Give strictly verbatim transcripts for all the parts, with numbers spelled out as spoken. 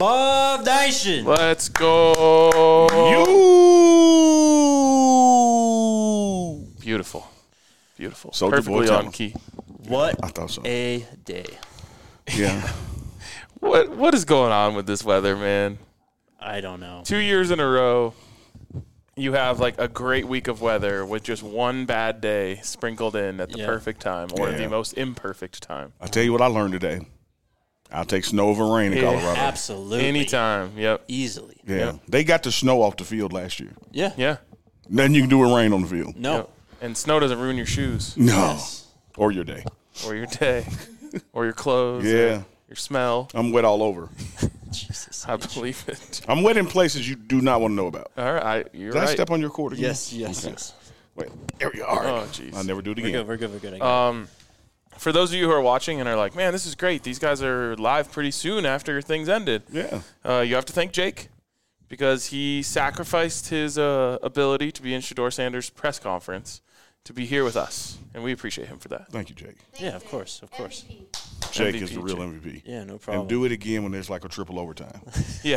Buff Nation. Let's go. You. Beautiful. Beautiful. Soldier Perfectly Boy on Town. key. What I thought so. a day. Yeah. What What is going on with this weather, man? I don't know. Two years in a row, you have like a great week of weather with just one bad day sprinkled in at the Yeah. perfect time or Yeah. the most imperfect time. I'll tell you what I learned today. I'll take snow over rain in Yeah. Colorado. Absolutely. Anytime. Yep. Easily. Yeah. Yep. They got the snow off the field last year. Yeah. Yeah. Nothing you can do with rain on the field. No. Yep. And snow doesn't ruin your shoes No. Yes. Or your day. or your day or your clothes. Yeah. Or your smell. I'm wet all over. Jesus. I believe it. I'm wet in places you do not want to know about. All right. You're Did right. I step on your court again? Yes, yes, Okay. yes. Wait, there we are. Oh, jeez. I'll never do it We're again. good, we're good, we're good. I got it. Um, for those of you who are watching and are like, man, this is great. These guys are live pretty soon after things ended. Yeah. Uh, you have to thank Jake because he sacrificed his uh, ability to be in Shador Sanders' press conference to be here with us, and we appreciate him for that. Thank you, Jake. Yeah, of course, of course. Jake M V is P, the real Jake. M V P. Yeah, no problem. And do it again when there's like a triple overtime. Yeah.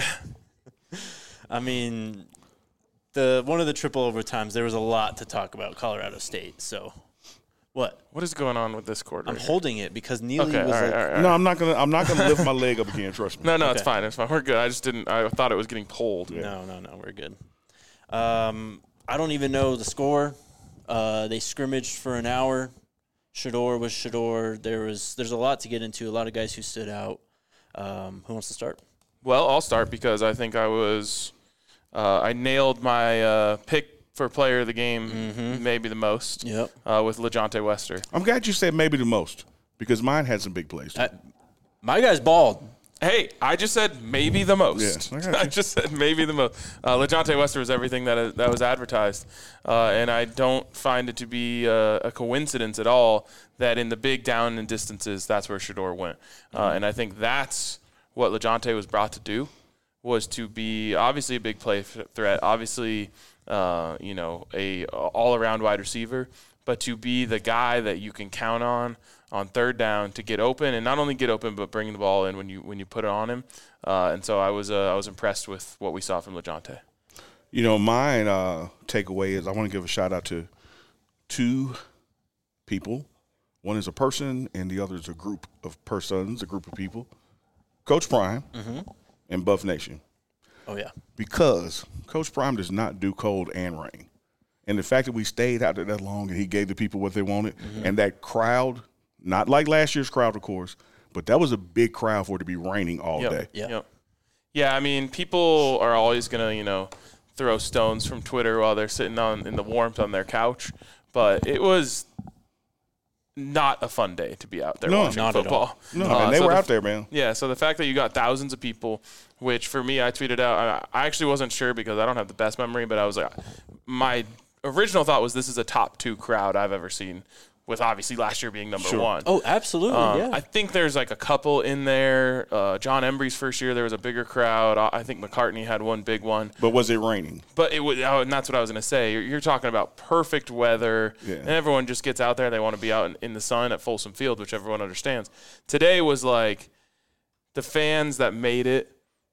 I mean, the one of the triple overtimes, there was a lot to talk about Colorado State. So, what? What is going on with this quarter? I'm holding it because Neely Okay, all was right, like, all right, all right. No, I'm not gonna. I'm not gonna lift my leg up again. Trust me. No, no, it's Okay. fine. It's fine. We're good. I just didn't. I thought it was getting pulled. no, no, no, we're good. Um, I don't even know the score. Uh, they scrimmaged for an hour. Shador was Shador. There was there's a lot to get into. A lot of guys who stood out. Um, who wants to start? Well, I'll start because I think I was. Uh, I nailed my uh, pick for player of the game, maybe the most. Yep. Uh, with LeJontay Wester. I'm glad you said maybe the most because mine had some big plays. I, my guy's bald. Hey, I just said maybe the most. Yeah, I got I you. just said maybe the most. Uh, LeJontay Wester was everything that that was advertised, uh, and I don't find it to be uh, a coincidence at all that in the big down and distances, that's where Shador went, uh, and I think that's what LeJontay was brought to do, was to be obviously a big play th- threat, obviously, uh, you know, a all around wide receiver, but to be the guy that you can count on on third down to get open, and not only get open, but bring the ball in when you when you put it on him. Uh, and so I was uh, I was impressed with what we saw from LeJontay. You know, mine uh, takeaway is I want to give a shout out to two people. One is a person, and the other is a group of persons, a group of people. Coach Prime and Buff Nation. Oh yeah. Because Coach Prime does not do cold and rain. And the fact that we stayed out there that long and he gave the people what they wanted, and that crowd, not like last year's crowd, of course, but that was a big crowd for it to be raining all Yep. day. Yeah. Yep. Yeah, I mean, people are always gonna you know throw stones from Twitter while they're sitting on in the warmth on their couch, but it was not a fun day to be out there No, watching not at football. all. No, Uh, man, they so were the out there, man. Yeah, so the fact that you got thousands of people, which for me, I tweeted out, I, I actually wasn't sure because I don't have the best memory, but I was like, my original thought was this is a top two crowd I've ever seen, with obviously last year being number Sure. one. Oh, absolutely. Um, yeah. I think there's like a couple in there. Uh, John Embry's first year, there was a bigger crowd. I I think McCartney had one big one. But was it raining? But it was, oh, and that's what I was going to say. You're, you're talking about perfect weather, Yeah. and everyone just gets out there. They want to be out in, in the sun at Folsom Field, which everyone understands. Today was like the fans that made it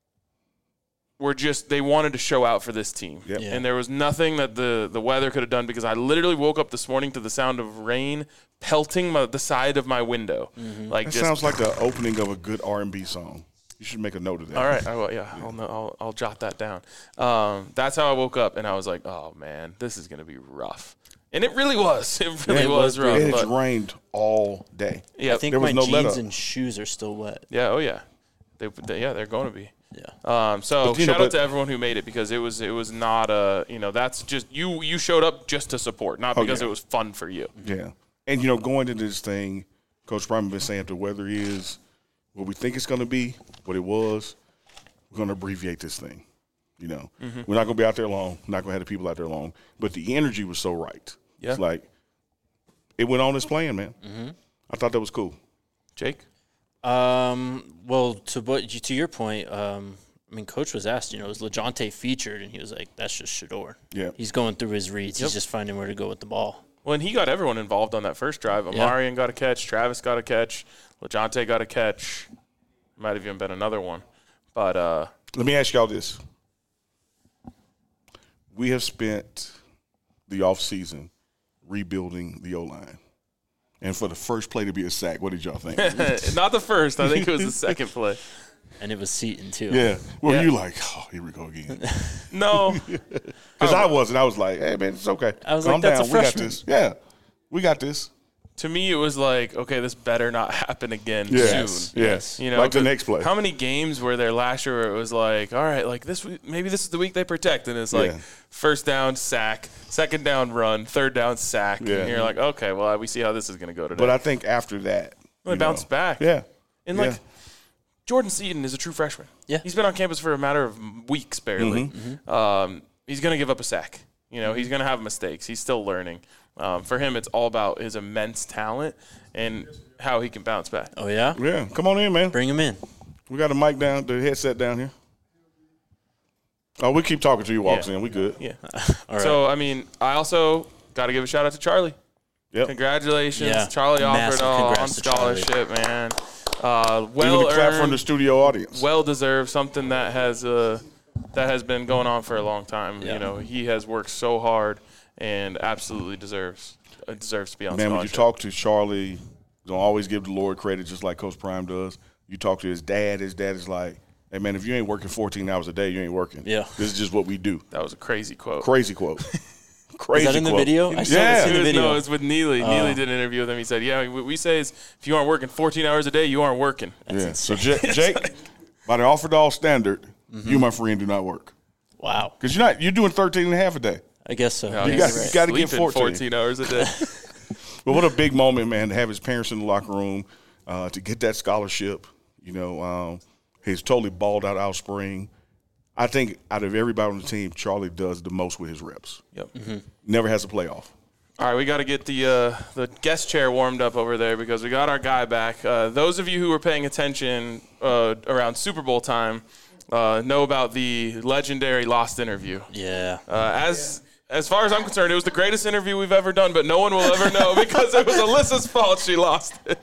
were just, they wanted to show out for this team. Yep. Yeah. And there was nothing that the, the weather could have done because I literally woke up this morning to the sound of rain pelting my, the side of my window. Like That just, sounds like the opening of a good R and B song. You should make a note of that. all right, I will, yeah, I'll, know, I'll I'll jot that down. Um, that's how I woke up, and I was like, oh man, this is gonna be rough, and it really was. It really Yeah, it was, was rough. It has but- rained all day. yeah, I think there was my no let jeans up. and shoes are still wet. yeah, oh yeah, they, they yeah they're going to be. Yeah. Um, so But, you shout know, out but- to everyone who made it because it was it was not a you know that's just you you showed up just to support, not Oh, because yeah. it was fun for you. Yeah. And, you know, going into this thing, Coach Prime has been saying if the weather is what we think it's going to be, what it was, we're going to abbreviate this thing. You know, Mm-hmm. we're not going to be out there long. We're not going to have the people out there long. But the energy was so right. Yeah. It's like it went on as planned, man. Mm-hmm. I thought that was cool. Jake, Um. Well, to what to your point, um, I mean, Coach was asked, you know, is LeJontay featured, and he was like, "That's just Shador. Yeah. He's going through his reads. Yep. He's just finding where to go with the ball." well, and he got everyone involved on that first drive. Yeah. Amarian got a catch, Travis got a catch, LeJontay got a catch, might have even been another one. But uh, let me ask y'all this: we have spent the off season rebuilding the O line, and for the first play to be a sack, what did y'all think? not the first. I think it was the second play. And it was Seton, too. Yeah. Were Yeah. you like, oh, here we go again? No. Because I wasn't. I was like, hey, man, it's okay. I was Calm like, that's down. a We got freshman. this. Yeah. We got this. To me, it was like, okay, this better not happen again Yes. soon. Yes. You know, like the but next play. How many games were there last year where it was like, all right, like this, week- maybe this is the week they protect, and it's like Yeah. first down sack, second down run, third down sack, Yeah. and you're like, okay, well, we see how this is going to go today. But I think after that, Well, you they bounced know, back. Yeah. And Yeah. like Jordan Seaton is a true freshman. Yeah. He's been on campus for a matter of weeks, barely. Mm-hmm. Um, he's going to give up a sack. You know, he's going to have mistakes. He's still learning. Um, for him, it's all about his immense talent and how he can bounce back. Oh, yeah? Yeah. Come on in, man. Bring him in. We got a mic down, the headset down here. Oh, we keep talking to you walks Yeah. in. We good. Yeah. All right. So, I mean, I also got to give a shout out to Charlie. Yep. Congratulations, Yeah. Charlie Massive Offerdahl on congrats to Charlie. scholarship, man. Uh, Even well a clap from the earned, studio audience. well deserved. Something that has uh, that has been going on for a long time. Yeah. You know, he has worked so hard and absolutely deserves uh, deserves to be on Man, when you scholarship. talk to Charlie, don't always give the Lord credit, just like Coach Prime does. You talk to his dad. His dad is like, "Hey, man, if you ain't working fourteen hours a day, you ain't working. Yeah. This is just what we do." That was a crazy quote. Crazy quote. Crazy Is that in the quote. video? I saw Yeah. this in It the was, video. no, it's with Neely. Neely did an interview with him. He said, "Yeah, what we say is if you aren't working fourteen hours a day, you aren't working." Yeah. So, J- Jake, by the Offerdahl standard, Mm-hmm. you, my friend, do not work. Wow. Because you're not, you're doing thirteen and a half a day. I guess so. No, You he's got- right. you got to get sleeping fourteen. hours a day. But what a big moment, man, to have his parents in the locker room, uh, to get that scholarship. You know, um, he's totally balled out all spring. I think out of everybody on the team, Charlie does the most with his reps. Yep. Never has a playoff. All right, we got to get the uh, the guest chair warmed up over there because we got our guy back. Uh, those of you who were paying attention uh, around Super Bowl time uh, know about the legendary Lost interview. Yeah. Uh, as as far as I'm concerned, it was the greatest interview we've ever done, but no one will ever know because it was Alyssa's fault she lost it.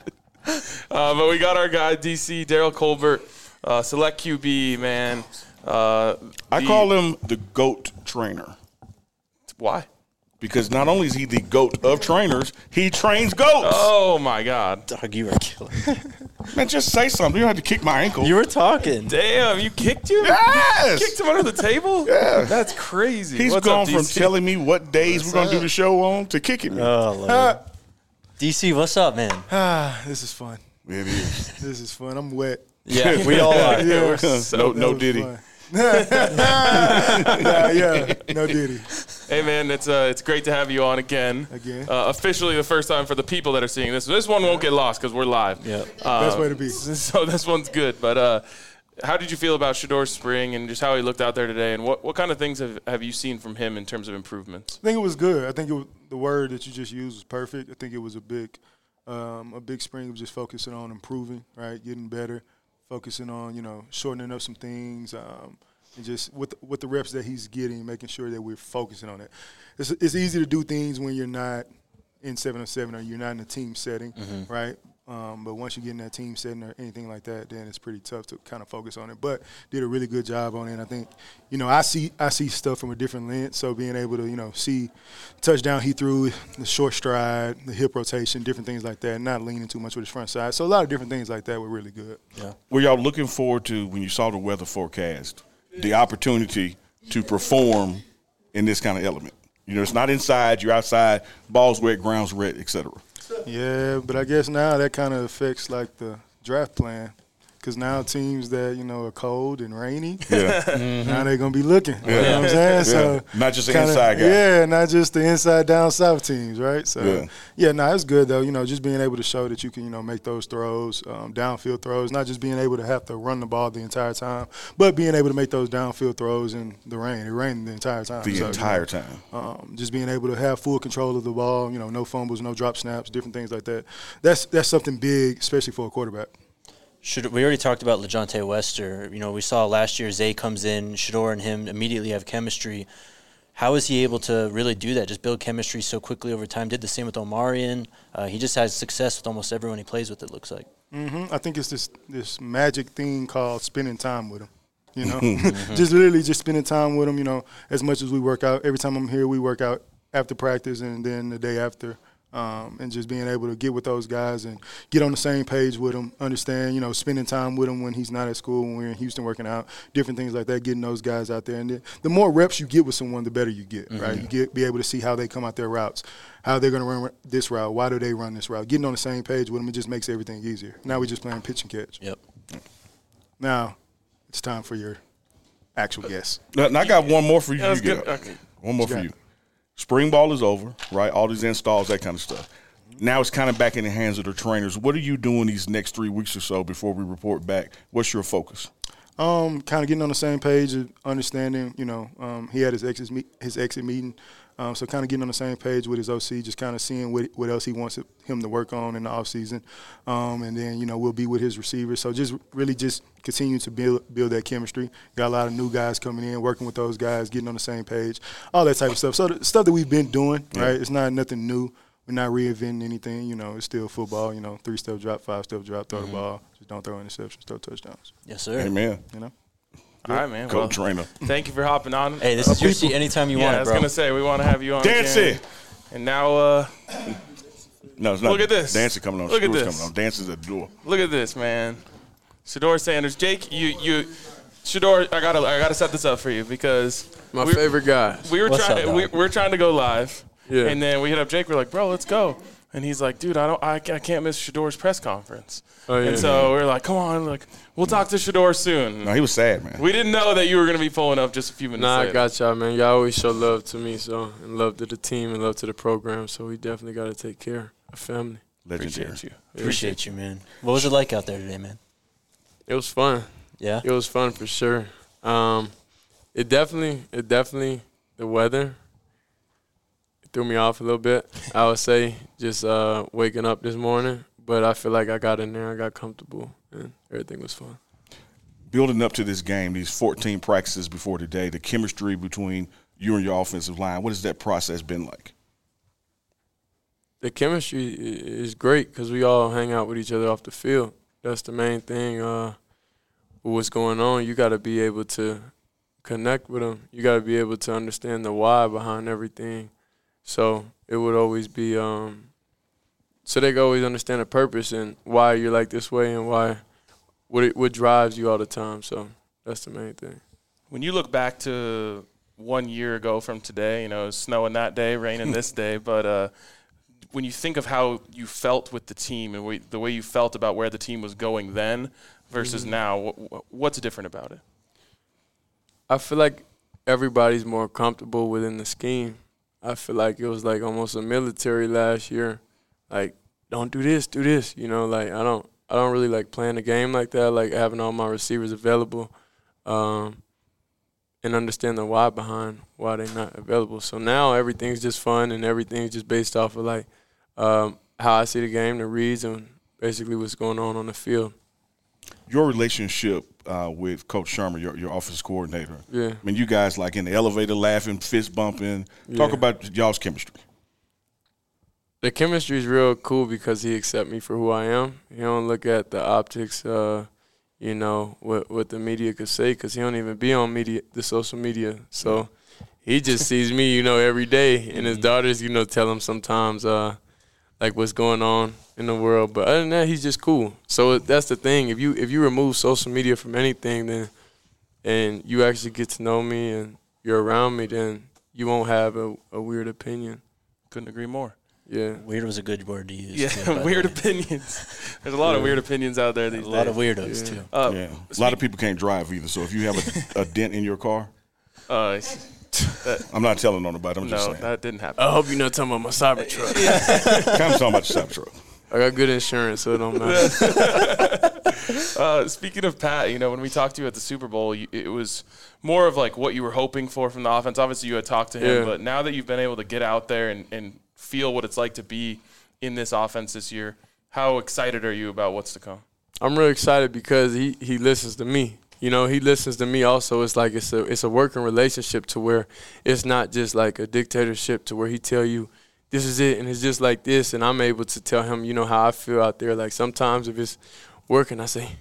Uh, but we got our guy, D C, Daryl Colbert, uh, select Q B, man. Uh, I the- call him the GOAT trainer Why? because not only is he the GOAT of trainers, he trains GOATs. Oh, my God. Dog, you are killing me. Man, just say something. You don't have to kick my ankle. You were talking. Damn, you kicked you? yes! Kicked him under the table? Yeah. That's crazy. He's What's gone up, from D C? telling me what days we're going to do the show on to kicking me. Oh, Lord. D C, what's up, man? Ah, this is fun. It is. This is fun. I'm wet. Yeah, we all are. Yeah, no, that no was Diddy. fun. Nah, yeah, no Diddy. Hey, man, it's uh, it's great to have you on again. Again. Uh, officially the first time for the people that are seeing this. This one won't get lost because we're live. Yeah. Uh, Best way to be. So this one's good. But uh, how did you feel about Shador's spring and just how he looked out there today? And what, what kind of things have, have you seen from him in terms of improvements? I think it was good. I think it was, the word that you just used was perfect. I think it was a big, um, a big spring of just focusing on improving, right, getting better, focusing on you know shortening up some things, um, and just with with the reps that he's getting, making sure that we're focusing on it. It's it's easy to do things when you're not in seven on seven or you're not in a team setting, right? Um, but once you get in that team setting or anything like that, then it's pretty tough to kind of focus on it. But did a really good job on it. And I think, you know, I see I see stuff from a different lens. So being able to, you know, see touchdown he threw, the short stride, the hip rotation, different things like that, and not leaning too much with his front side. So a lot of different things like that were really good. Yeah. Were y'all looking forward to, when you saw the weather forecast, the opportunity to perform in this kind of element? You know, it's not inside, you're outside, ball's wet, ground's wet, et cetera. Yeah, but I guess now that kind of affects like the draft plan. Because now teams that, you know, are cold and rainy, Yeah. now they're going to be looking. You know what I'm saying? So Not just an kinda- inside guy. Yeah, not just the inside down south teams, right? So Yeah. yeah, no, it's good though. You know, just being able to show that you can, you know, make those throws, um, downfield throws, not just being able to have to run the ball the entire time, but being able to make those downfield throws in the rain. It rained the entire time. The So, entire you know, time. um, just being able to have full control of the ball, you know, no fumbles, no drop snaps, different things like that. That's that's something big, especially for a quarterback. Should we already talked about LeJounte Wester? You know, we saw last year Zay comes in, Shador and him immediately have chemistry. How is he able to really do that? Just build chemistry so quickly over time. Did the same with Omarion. Uh, he just has success with almost everyone he plays with. It looks like. hmm I think it's this this magic thing called spending time with him. You know, just literally just spending time with them. You know, as much as we work out. Every time I'm here, we work out after practice and then the day after. Um, and just being able to get with those guys and get on the same page with them, understand, you know, spending time with him when he's not at school, when we're in Houston working out, different things like that, getting those guys out there. And the, the more reps you get with someone, the better you get, mm-hmm. right? You get be able to see how they come out their routes, how they're going to run this route, why do they run this route. Getting on the same page with them, it just makes everything easier. Now we're just playing pitch and catch. Yep. Now it's time for your actual guess. Now, I got one more for you. Yeah, you get okay. One more What you for got? you. Spring ball is over, right? All these installs, that kind of stuff. Now it's kind of back in the hands of the trainers. What are you doing these next three weeks or so before we report back? What's your focus? Um, kind of getting on the same page, of understanding. You know, um, he had his exit me- his exit meeting, um, so kind of getting on the same page with his O C, just kind of seeing what what else he wants him to work on in the off season, um, and then you know we'll be with his receivers. So just really just continue to build build that chemistry. Got a lot of new guys coming in, working with those guys, getting on the same page, all that type of stuff. So the stuff that we've been doing, Yeah. right? It's not nothing new. We're not reinventing anything. You know, it's still football. You know, three step drop, five step drop, throw Mm-hmm. the ball. Just don't throw interceptions, throw touchdowns. Yes, sir. Amen. You know. All right, man. Go Well, trainer. thank you for hopping on. Hey, this is your seat anytime you yeah, want I it, was bro. gonna say we want to have you on. Dancy. again. And now, uh, No, it's not. Look at this. Dancing coming on. Look at Screws this. coming on. Dancing's at the door. look at this, man. Shador Sanders, Jake, you, you, Shador, I gotta, I gotta set this up for you because My we, favorite guy. we were What's trying, up, we, dog? we were trying to go live, Yeah. and then we hit up Jake. We're like, bro, let's go. And he's like, dude, I don't, I, I can't miss Shador's press conference. Oh, yeah. And so we we're like, come on, like, we'll talk to Shador soon. No, he was sad, man. We didn't know that you were gonna be pulling up just a few minutes Nah, I later. got y'all, man. Y'all always show love to me, so and love to the team and love to the program. So we definitely got to take care of family. Legendary. Appreciate you. Appreciate you, man. What was it like out there today, man? It was fun. Yeah? It was fun for sure. Um, it definitely, it definitely, the weather threw me off a little bit. I would say just uh, waking up this morning, but I feel like I got in there, I got comfortable, and everything was fun. Building up to this game, these fourteen practices before today, the chemistry between you and your offensive line, what has that process been like? The chemistry i- is great because we all hang out with each other off the field. That's the main thing. Uh, with what's going on, you got to be able to connect with them. You got to be able to understand the why behind everything. So it would always be um, so they can always understand the purpose and why you're like this way and why what it, what drives you all the time. So that's the main thing. When you look back to one year ago from today, you know, it was snowing that day, raining this day, but uh, when you think of how you felt with the team and we, the way you felt about where the team was going then versus Mm-hmm. now, wh- what's different about it? I feel like everybody's more comfortable within the scheme. I feel like it was like almost a military last year. Like, don't do this, do this. You know, like I don't I don't really like playing the game like that, like having all my receivers available. Um, and understand the why behind why they're not available. So now everything's just fun and everything's just based off of like um, how I see the game, the reads, and basically what's going on on the field. Your relationship uh, with Coach Sherman, your, your office coordinator. Yeah. I mean, you guys like in the elevator laughing, fist bumping. Talk Yeah. about y'all's chemistry. The chemistry is real cool because he accepts me for who I am. He don't look at the optics, uh, you know, what what the media could say because he don't even be on media, the social media. So he just sees me, you know, every day. And his daughters, you know, tell him sometimes, uh, like what's going on in the world. But other than that, he's just cool. So that's the thing. If you if you remove social media from anything, then and you actually get to know me and you're around me, then you won't have a, a weird opinion. Couldn't agree more. Yeah. Weird was a good word to use. Yeah, too, by the weird way. opinions. There's a lot of Yeah. weird opinions out there these A days. lot of weirdos, Yeah. too. Uh, yeah. A lot of people can't drive either. So if you have a, a dent in your car, Uh, that, I'm not telling on nobody. I'm just no, saying. that didn't happen. I hope you're not talking about my Cybertruck. kind of talking about the Cybertruck. I got good insurance, so it don't matter. Uh, speaking of Pat, you know, when we talked to you at the Super Bowl, you, it was more of like what you were hoping for from the offense. Obviously, you had talked to him, Yeah. but now that you've been able to get out there and, and feel what it's like to be in this offense this year, how excited are you about what's to come? I'm real excited because he, he listens to me. You know, he listens to me also. It's like it's a it's a working relationship to where it's not just like a dictatorship to where he tell you this is it and it's just like this, and I'm able to tell him, you know, how I feel out there. Like sometimes if it's working, I say,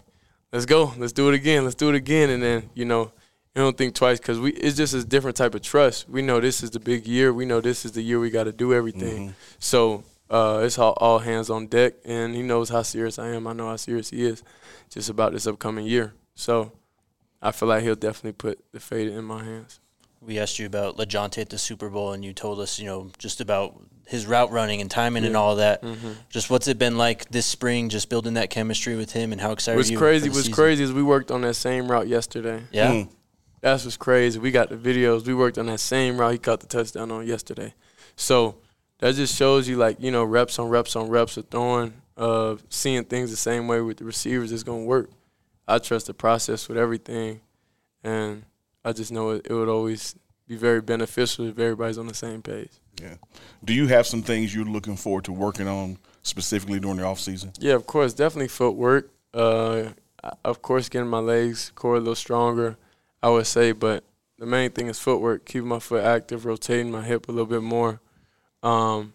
let's go. Let's do it again. Let's do it again. And then, you know, you don't think twice because we it's just a different type of trust. We know this is the big year. We know this is the year we got to do everything. Mm-hmm. So uh, it's all, all hands on deck, and he knows how serious I am. I know how serious he is just about this upcoming year. So I feel like he'll definitely put the fate in my hands. We asked you about LaJohntay at the Super Bowl, and you told us, you know, just about his route running and timing yeah. and all that. Mm-hmm. Just what's it been like this spring, just building that chemistry with him, and how excited what's are you crazy, for the What's season? crazy is we worked on that same route yesterday. Yeah? Mm. That's what's crazy. We got the videos. We worked on that same route he caught the touchdown on yesterday. So that just shows you, like, you know, reps on reps on reps of throwing, uh, seeing things the same way with the receivers is going to work. I trust the process with everything, and I just know it, it would always be very beneficial if everybody's on the same page. Yeah. Do you have some things you're looking forward to working on specifically during the offseason? Yeah, of course. Definitely footwork. Uh, of course, getting my legs, core a little stronger, I would say. But the main thing is footwork, keeping my foot active, rotating my hip a little bit more. Um,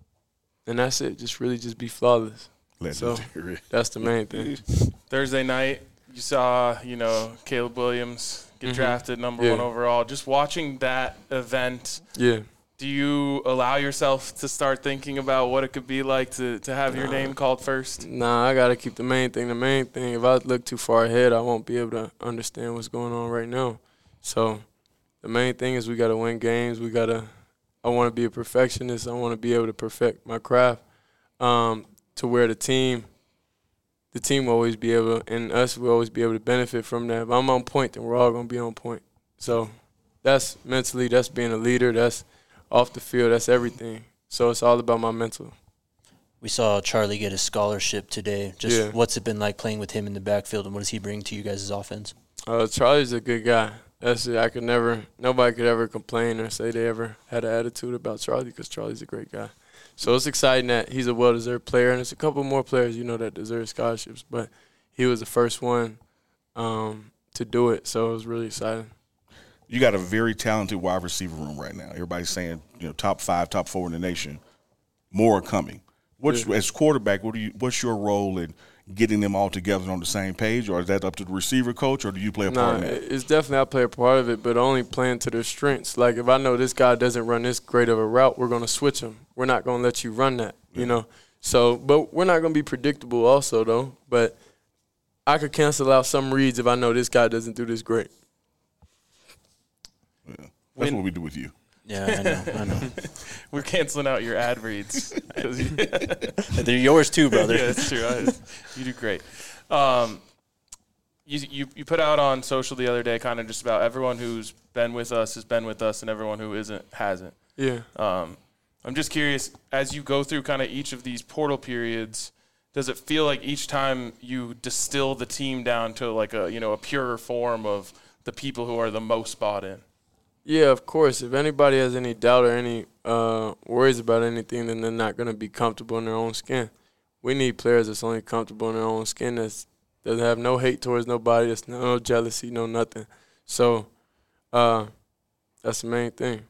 and that's it. Just really just be flawless. Legendary. So that's the main thing. Thursday night, you saw, you know, Caleb Williams get mm-hmm. drafted number yeah. one overall. Just watching that event, yeah. do you allow yourself to start thinking about what it could be like to, to have nah. your name called first? Nah, I got to keep the main thing the main thing. If I look too far ahead, I won't be able to understand what's going on right now. So the main thing is we got to win games. We got to – I want to be a perfectionist. I want to be able to perfect my craft um, to where the team – the team will always be able to, and us will always be able to benefit from that. If I'm on point, then we're all going to be on point. So that's mentally, that's being a leader, that's off the field, that's everything. So it's all about my mental. We saw Charlie get a scholarship today. Just yeah. what's it been like playing with him in the backfield, and what does he bring to you guys' offense? Uh, Charlie's a good guy. That's it. I could never, nobody could ever complain or say they ever had an attitude about Charlie because Charlie's a great guy. So it's exciting that he's a well-deserved player, and there's a couple more players, you know, that deserve scholarships. But he was the first one um, to do it, so it was really exciting. You got a very talented wide receiver room right now. Everybody's saying, you know, top five, top four in the nation. More are coming. What's yeah. as quarterback? What do you? What's your role in getting them all together on the same page, or is that up to the receiver coach, or do you play a part nah, in that? It's definitely I play a part of it, but only playing to their strengths. Like if I know this guy doesn't run this great of a route, we're going to switch him. We're not going to let you run that, yeah. you know. So, but we're not going to be predictable also, though. But I could cancel out some reads if I know this guy doesn't do this great. Yeah. That's when, what we do with you. Yeah, I know. I know. We're canceling out your ad reads. They're yours too, brother. Yeah, that's true. I, you do great. Um, you, you you put out on social the other day kind of just about everyone who's been with us has been with us and everyone who isn't hasn't. Yeah. Um, I'm just curious, as you go through kind of each of these portal periods, does it feel like each time you distill the team down to like a, you know, a purer form of the people who are the most bought in? Yeah, of course. If anybody has any doubt or any uh, worries about anything, then they're not going to be comfortable in their own skin. We need players that's only comfortable in their own skin, that doesn't have no hate towards nobody, that's no jealousy, no nothing. So uh, that's the main thing.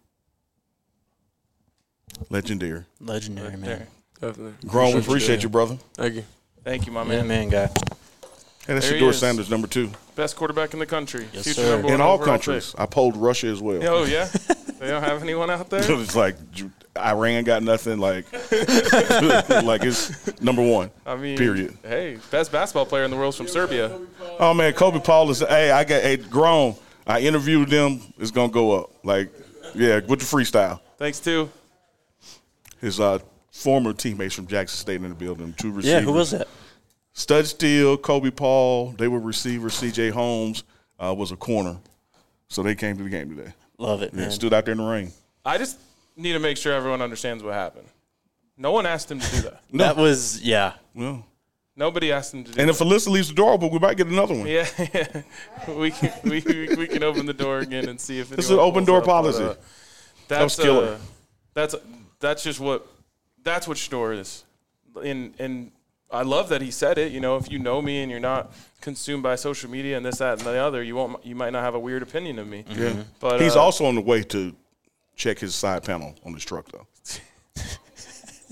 Legendary. Legendary, Legendary. man. Definitely. Grown, we appreciate you, brother. Thank you. Thank you, my Yeah, man. man, guy. Hey, that's There he Shedeur is. Sanders, number two. Best quarterback in the country. Yes, Future sir. number one In all overall countries. I polled Russia as well. pick. Oh, yeah? They don't have anyone out there? It's like Iran got nothing. Like, like it's number one. I mean, period. Hey, best basketball player in the world is from Serbia. Oh man, Kobe Paul is. Hey, I got a hey, grown. I interviewed them. It's gonna go up. Like, yeah, with the freestyle. Thanks, too. His uh, former teammates from Jackson State in the building. Two receivers. Yeah, who was that? Stud Steele, Kobe Paul. They were receivers. C J Holmes uh, was a corner. So they came to the game today. Love it, Yeah, man. stood out there in the rain. I just need to make sure everyone understands what happened. No one asked him to do that. No. That was, yeah. Well, Nobody asked him to do and that. if Alyssa leaves the door open, we might get another one. Yeah, yeah. We can we, we we can open the door again and see if This is anyone an open pulls door up, but, policy. uh, That was that's killer. uh, that's that's just what that's what Shedeur is, and and I love that he said it. You know, if you know me and you're not consumed by social media and this, that, and the other, you won't you might not have a weird opinion of me. Yeah. But He's uh, also on the way to check his side panel on his truck, though.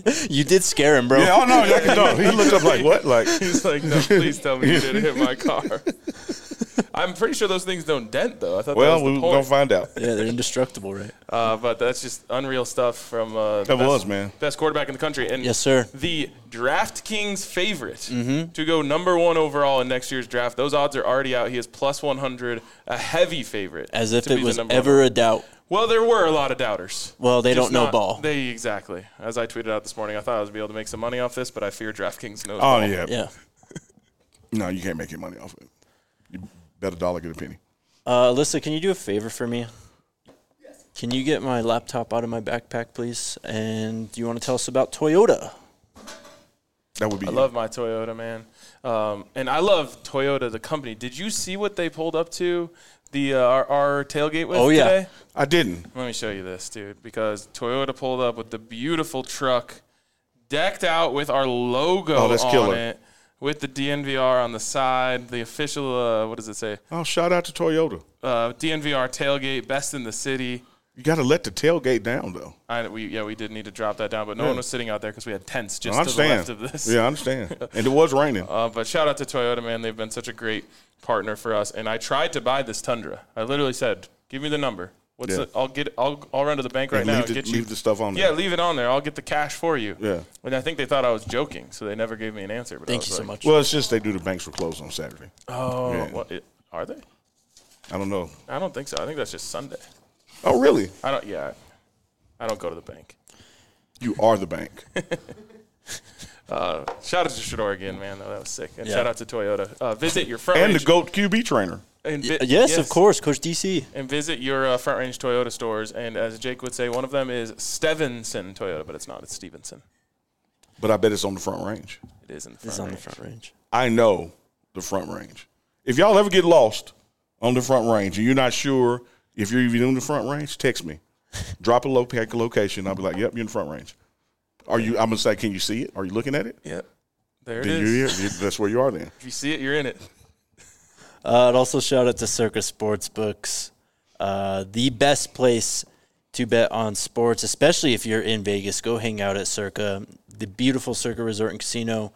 You did scare him, bro. Yeah, oh no, I can tell. He looked up like what? Like He's like, no, please tell me you didn't hit my car. I'm pretty sure those things don't dent, though. I thought well, that was the we're point. gonna find out. Yeah, they're indestructible, right? Uh, but that's just unreal stuff from uh, the That best, was, man. best quarterback in the country. And Yes, sir. the DraftKings favorite Mm-hmm. to go number one overall in next year's draft. Those odds are already out. He is plus one hundred, a heavy favorite. As if to it be the was number ever one. a doubt. Well, there were a lot of doubters. Well, they Just don't know not- ball. They exactly. As I tweeted out this morning, I thought I was be able to make some money off this, but I fear DraftKings knows Oh ball. yeah. Yeah. No, you can't make any money off of it. You bet a dollar, get a penny. Uh, Alyssa, can you do a favor for me? Yes. Can you get my laptop out of my backpack, please? And do you want to tell us about Toyota? That would be. I love my Toyota, man. Um, and I love Toyota, the company. Did you see what they pulled up to the uh, our, our tailgate with Oh, yeah. today? I didn't. Let me show you this, dude, because Toyota pulled up with the beautiful truck decked out with our logo Oh, that's on killer. it, with the D N V R on the side, the official, uh, what does it say? Oh, shout out to Toyota. Uh, D N V R tailgate, best in the city. You got to let the tailgate down though. I, we, yeah, we did need to drop that down, but no Yeah. one was sitting out there because we had tents just I to the understand. left of this. Yeah, I understand. And it was raining. Uh, but shout out to Toyota, man. They've been such a great partner for us. And I tried to buy this Tundra. I literally said, "Give me the number. What's Yeah. it? I'll get. I'll. I'll run to the bank right And now leave and the, get you. leave the stuff on Yeah, there. leave it on there. I'll get the cash for you." Yeah. And I think they thought I was joking, so they never gave me an answer. But I Thank was you so like, much. Well, it's just they do the banks were closed on Saturday. Oh, Yeah. what, it, are they? I don't know. I don't think so. I think that's just Sunday. Oh, really? I don't. Yeah, I don't go to the bank. You are the bank. Uh, shout out to Shador again, man. That was sick. And Yeah. shout out to Toyota. Uh, visit your front And the range. GOAT Q B trainer. and vi- yes, of course, Coach D C. And visit your uh, Front Range Toyota stores. And as Jake would say, one of them is Stevenson Toyota, but it's not. It's Stevenson. But I bet it's on the front range. It is in the front It's on the range. front range. I know the front range. If y'all ever get lost on the front range and you're not sure if you're even in the front range, text me. Drop a low pack location. I'll be like, yep, you're in the front range. Are you? I'm gonna say, can you see it? Are you looking at it? Yep. There it Then is. you're here. That's where you are. Then If you see it, you're in it. Uh, I'd also shout out to Circa Sportsbooks, uh, the best place to bet on sports, especially if you're in Vegas. Go hang out at Circa, the beautiful Circa Resort and Casino.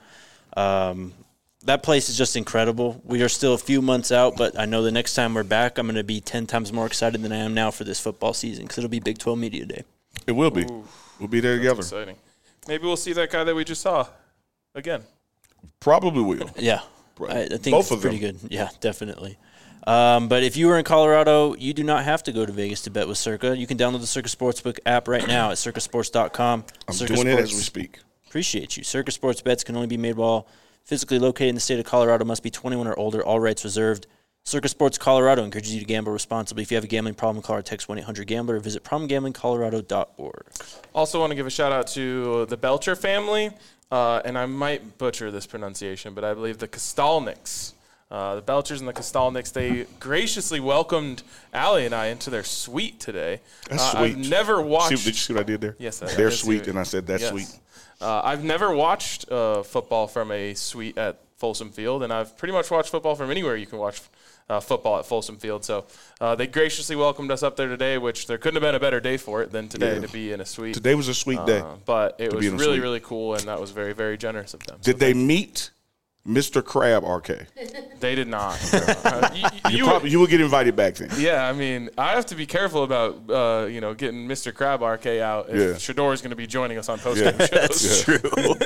Um, that place is just incredible. We are still a few months out, but I know the next time we're back, I'm going to be ten times more excited than I am now for this football season because it'll be Big twelve Media Day. it will be. Ooh, We'll be there together. exciting. Maybe we'll see that guy that we just saw again. Probably will. Yeah, Right. I, I think Both it's of pretty them. good. Yeah, definitely. Um, but if you are in Colorado, you do not have to go to Vegas to bet with Circa. You can download the Circa Sportsbook app right now at circa sports dot com. I'm Circa doing it as Sports- we speak. Appreciate you. Circa Sports bets can only be made while physically located in the state of Colorado. Must be twenty-one or older. All rights reserved. Circa Sports Colorado encourages you to gamble responsibly. If you have a gambling problem, call or text one eight hundred gambler or visit problem gambling colorado dot org. Also want to give a shout out to the Belcher family, uh, and I might butcher this pronunciation, but I believe the Kostalniks. Uh, the Belchers and the Kostalniks, they graciously welcomed Allie and I into their suite today. That's uh, sweet. I've never See, watched. did you see what I did there? Yes, I- I They're did see sweet, it. and I said that's Yes. sweet. Uh, I've never watched uh, football from a suite at Folsom Field, and I've pretty much watched football from anywhere you can watch uh, football at Folsom Field. So uh, they graciously welcomed us up there today, which there couldn't have been a better day for it than today Yeah. to be in a suite. Today was a sweet day. Uh, but it to was be in a really, suite. really cool, and that was very, very generous of them. Did they meet Mister Crab R K? They did not. Uh, you, you- You, probably, you will get invited back then. yeah, I mean, I have to be careful about, uh, you know, getting Mister Crab R K out if Yeah. Shador is going to be joining us on post-game Yeah. shows. Yeah.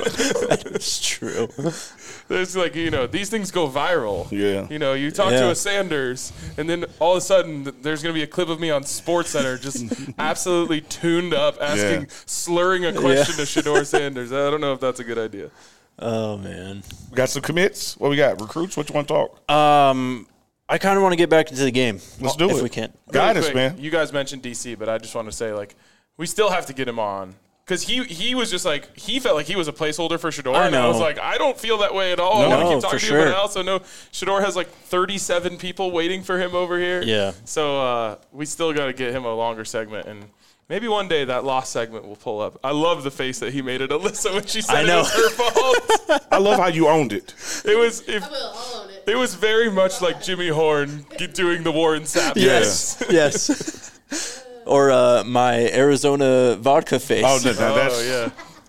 That's true. It's like, you know, these things go viral. Yeah. You know, you talk Yeah. to a Sanders, and then all of a sudden th- there's going to be a clip of me on SportsCenter just absolutely tuned up, asking, Yeah. slurring a question to Shador Sanders. I don't know if that's a good idea. Oh, man. We got some commits. What we got? Recruits? What you want to talk? Um, I kind of want to get back into the game. Let's do if it. we can. Guide Really us, quick, man. You guys mentioned D C, but I just want to say, like, we still have to get him on. Because he, he was just like, he felt like he was a placeholder for Shador. I And I was know. like, I don't feel that way at all. I want to No, keep talking for to you, but sure. I also know Shador has like thirty-seven people waiting for him over here. Yeah. So uh, we still got to get him a longer segment. And maybe one day that lost segment will pull up. I love the face that he made at Alyssa when she said I it know. was her fault. I love how you owned it. It was if, I will. I'll own it. it was very much like Jimmy Horn g- doing the Warren Sapp. Yes. Yes. Or uh, my Arizona vodka face. Oh, no, no, Oh, that's yeah.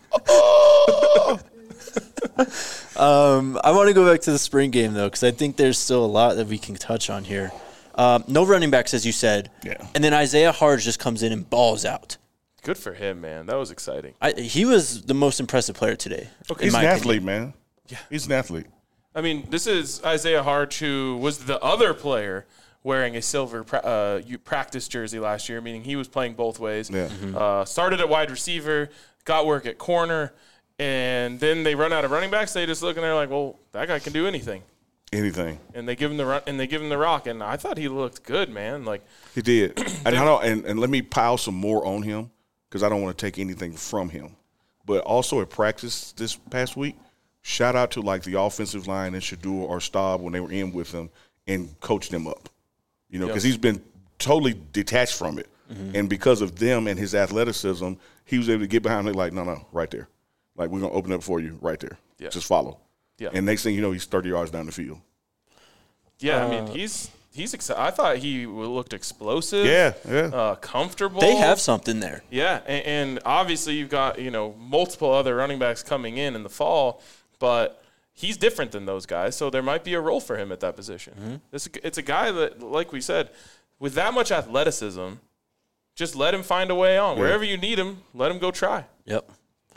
um, I want to go back to the spring game, though, because I think there's still a lot that we can touch on here. Um, no running backs, as you said. Yeah. And then Isaiah Harge just comes in and balls out. Good for him, man. That was exciting. I, he was the most impressive player today. Okay. He's in an my athlete, opinion. man. Yeah. He's an athlete. I mean, this is Isaiah Harge, who was the other player wearing a silver pra- uh, you- practice jersey last year, meaning he was playing both ways. Yeah. Mm-hmm. Uh, started at wide receiver, got work at corner, and then they run out of running backs. They just look and they're like, well, that guy can do anything. Anything. And they give him the run, and they give him the rock, and I thought he looked good, man. Like He did. and, I don't, and, and let me pile some more on him because I don't want to take anything from him. But also at practice this past week, shout out to like the offensive line and Shador or Staub when they were in with him and coached them up. You know, because Yep. he's been totally detached from it. Mm-hmm. And because of them and his athleticism, he was able to get behind it like, no, no, right there. Like, we're going to open up for you right there. Yeah. Just follow. Yeah. And next thing you know, he's thirty yards down the field. Yeah, I Uh, mean, he's he's excited. I thought he looked explosive. Yeah, yeah. Uh, comfortable. They have something there. Yeah, and, and obviously you've got, you know, multiple other running backs coming in in the fall, but he's different than those guys, so there might be a role for him at that position. Mm-hmm. It's, a, it's a guy that, like we said, with that much athleticism, just let him find a way on. Yeah. Wherever you need him, let him go try. Yep.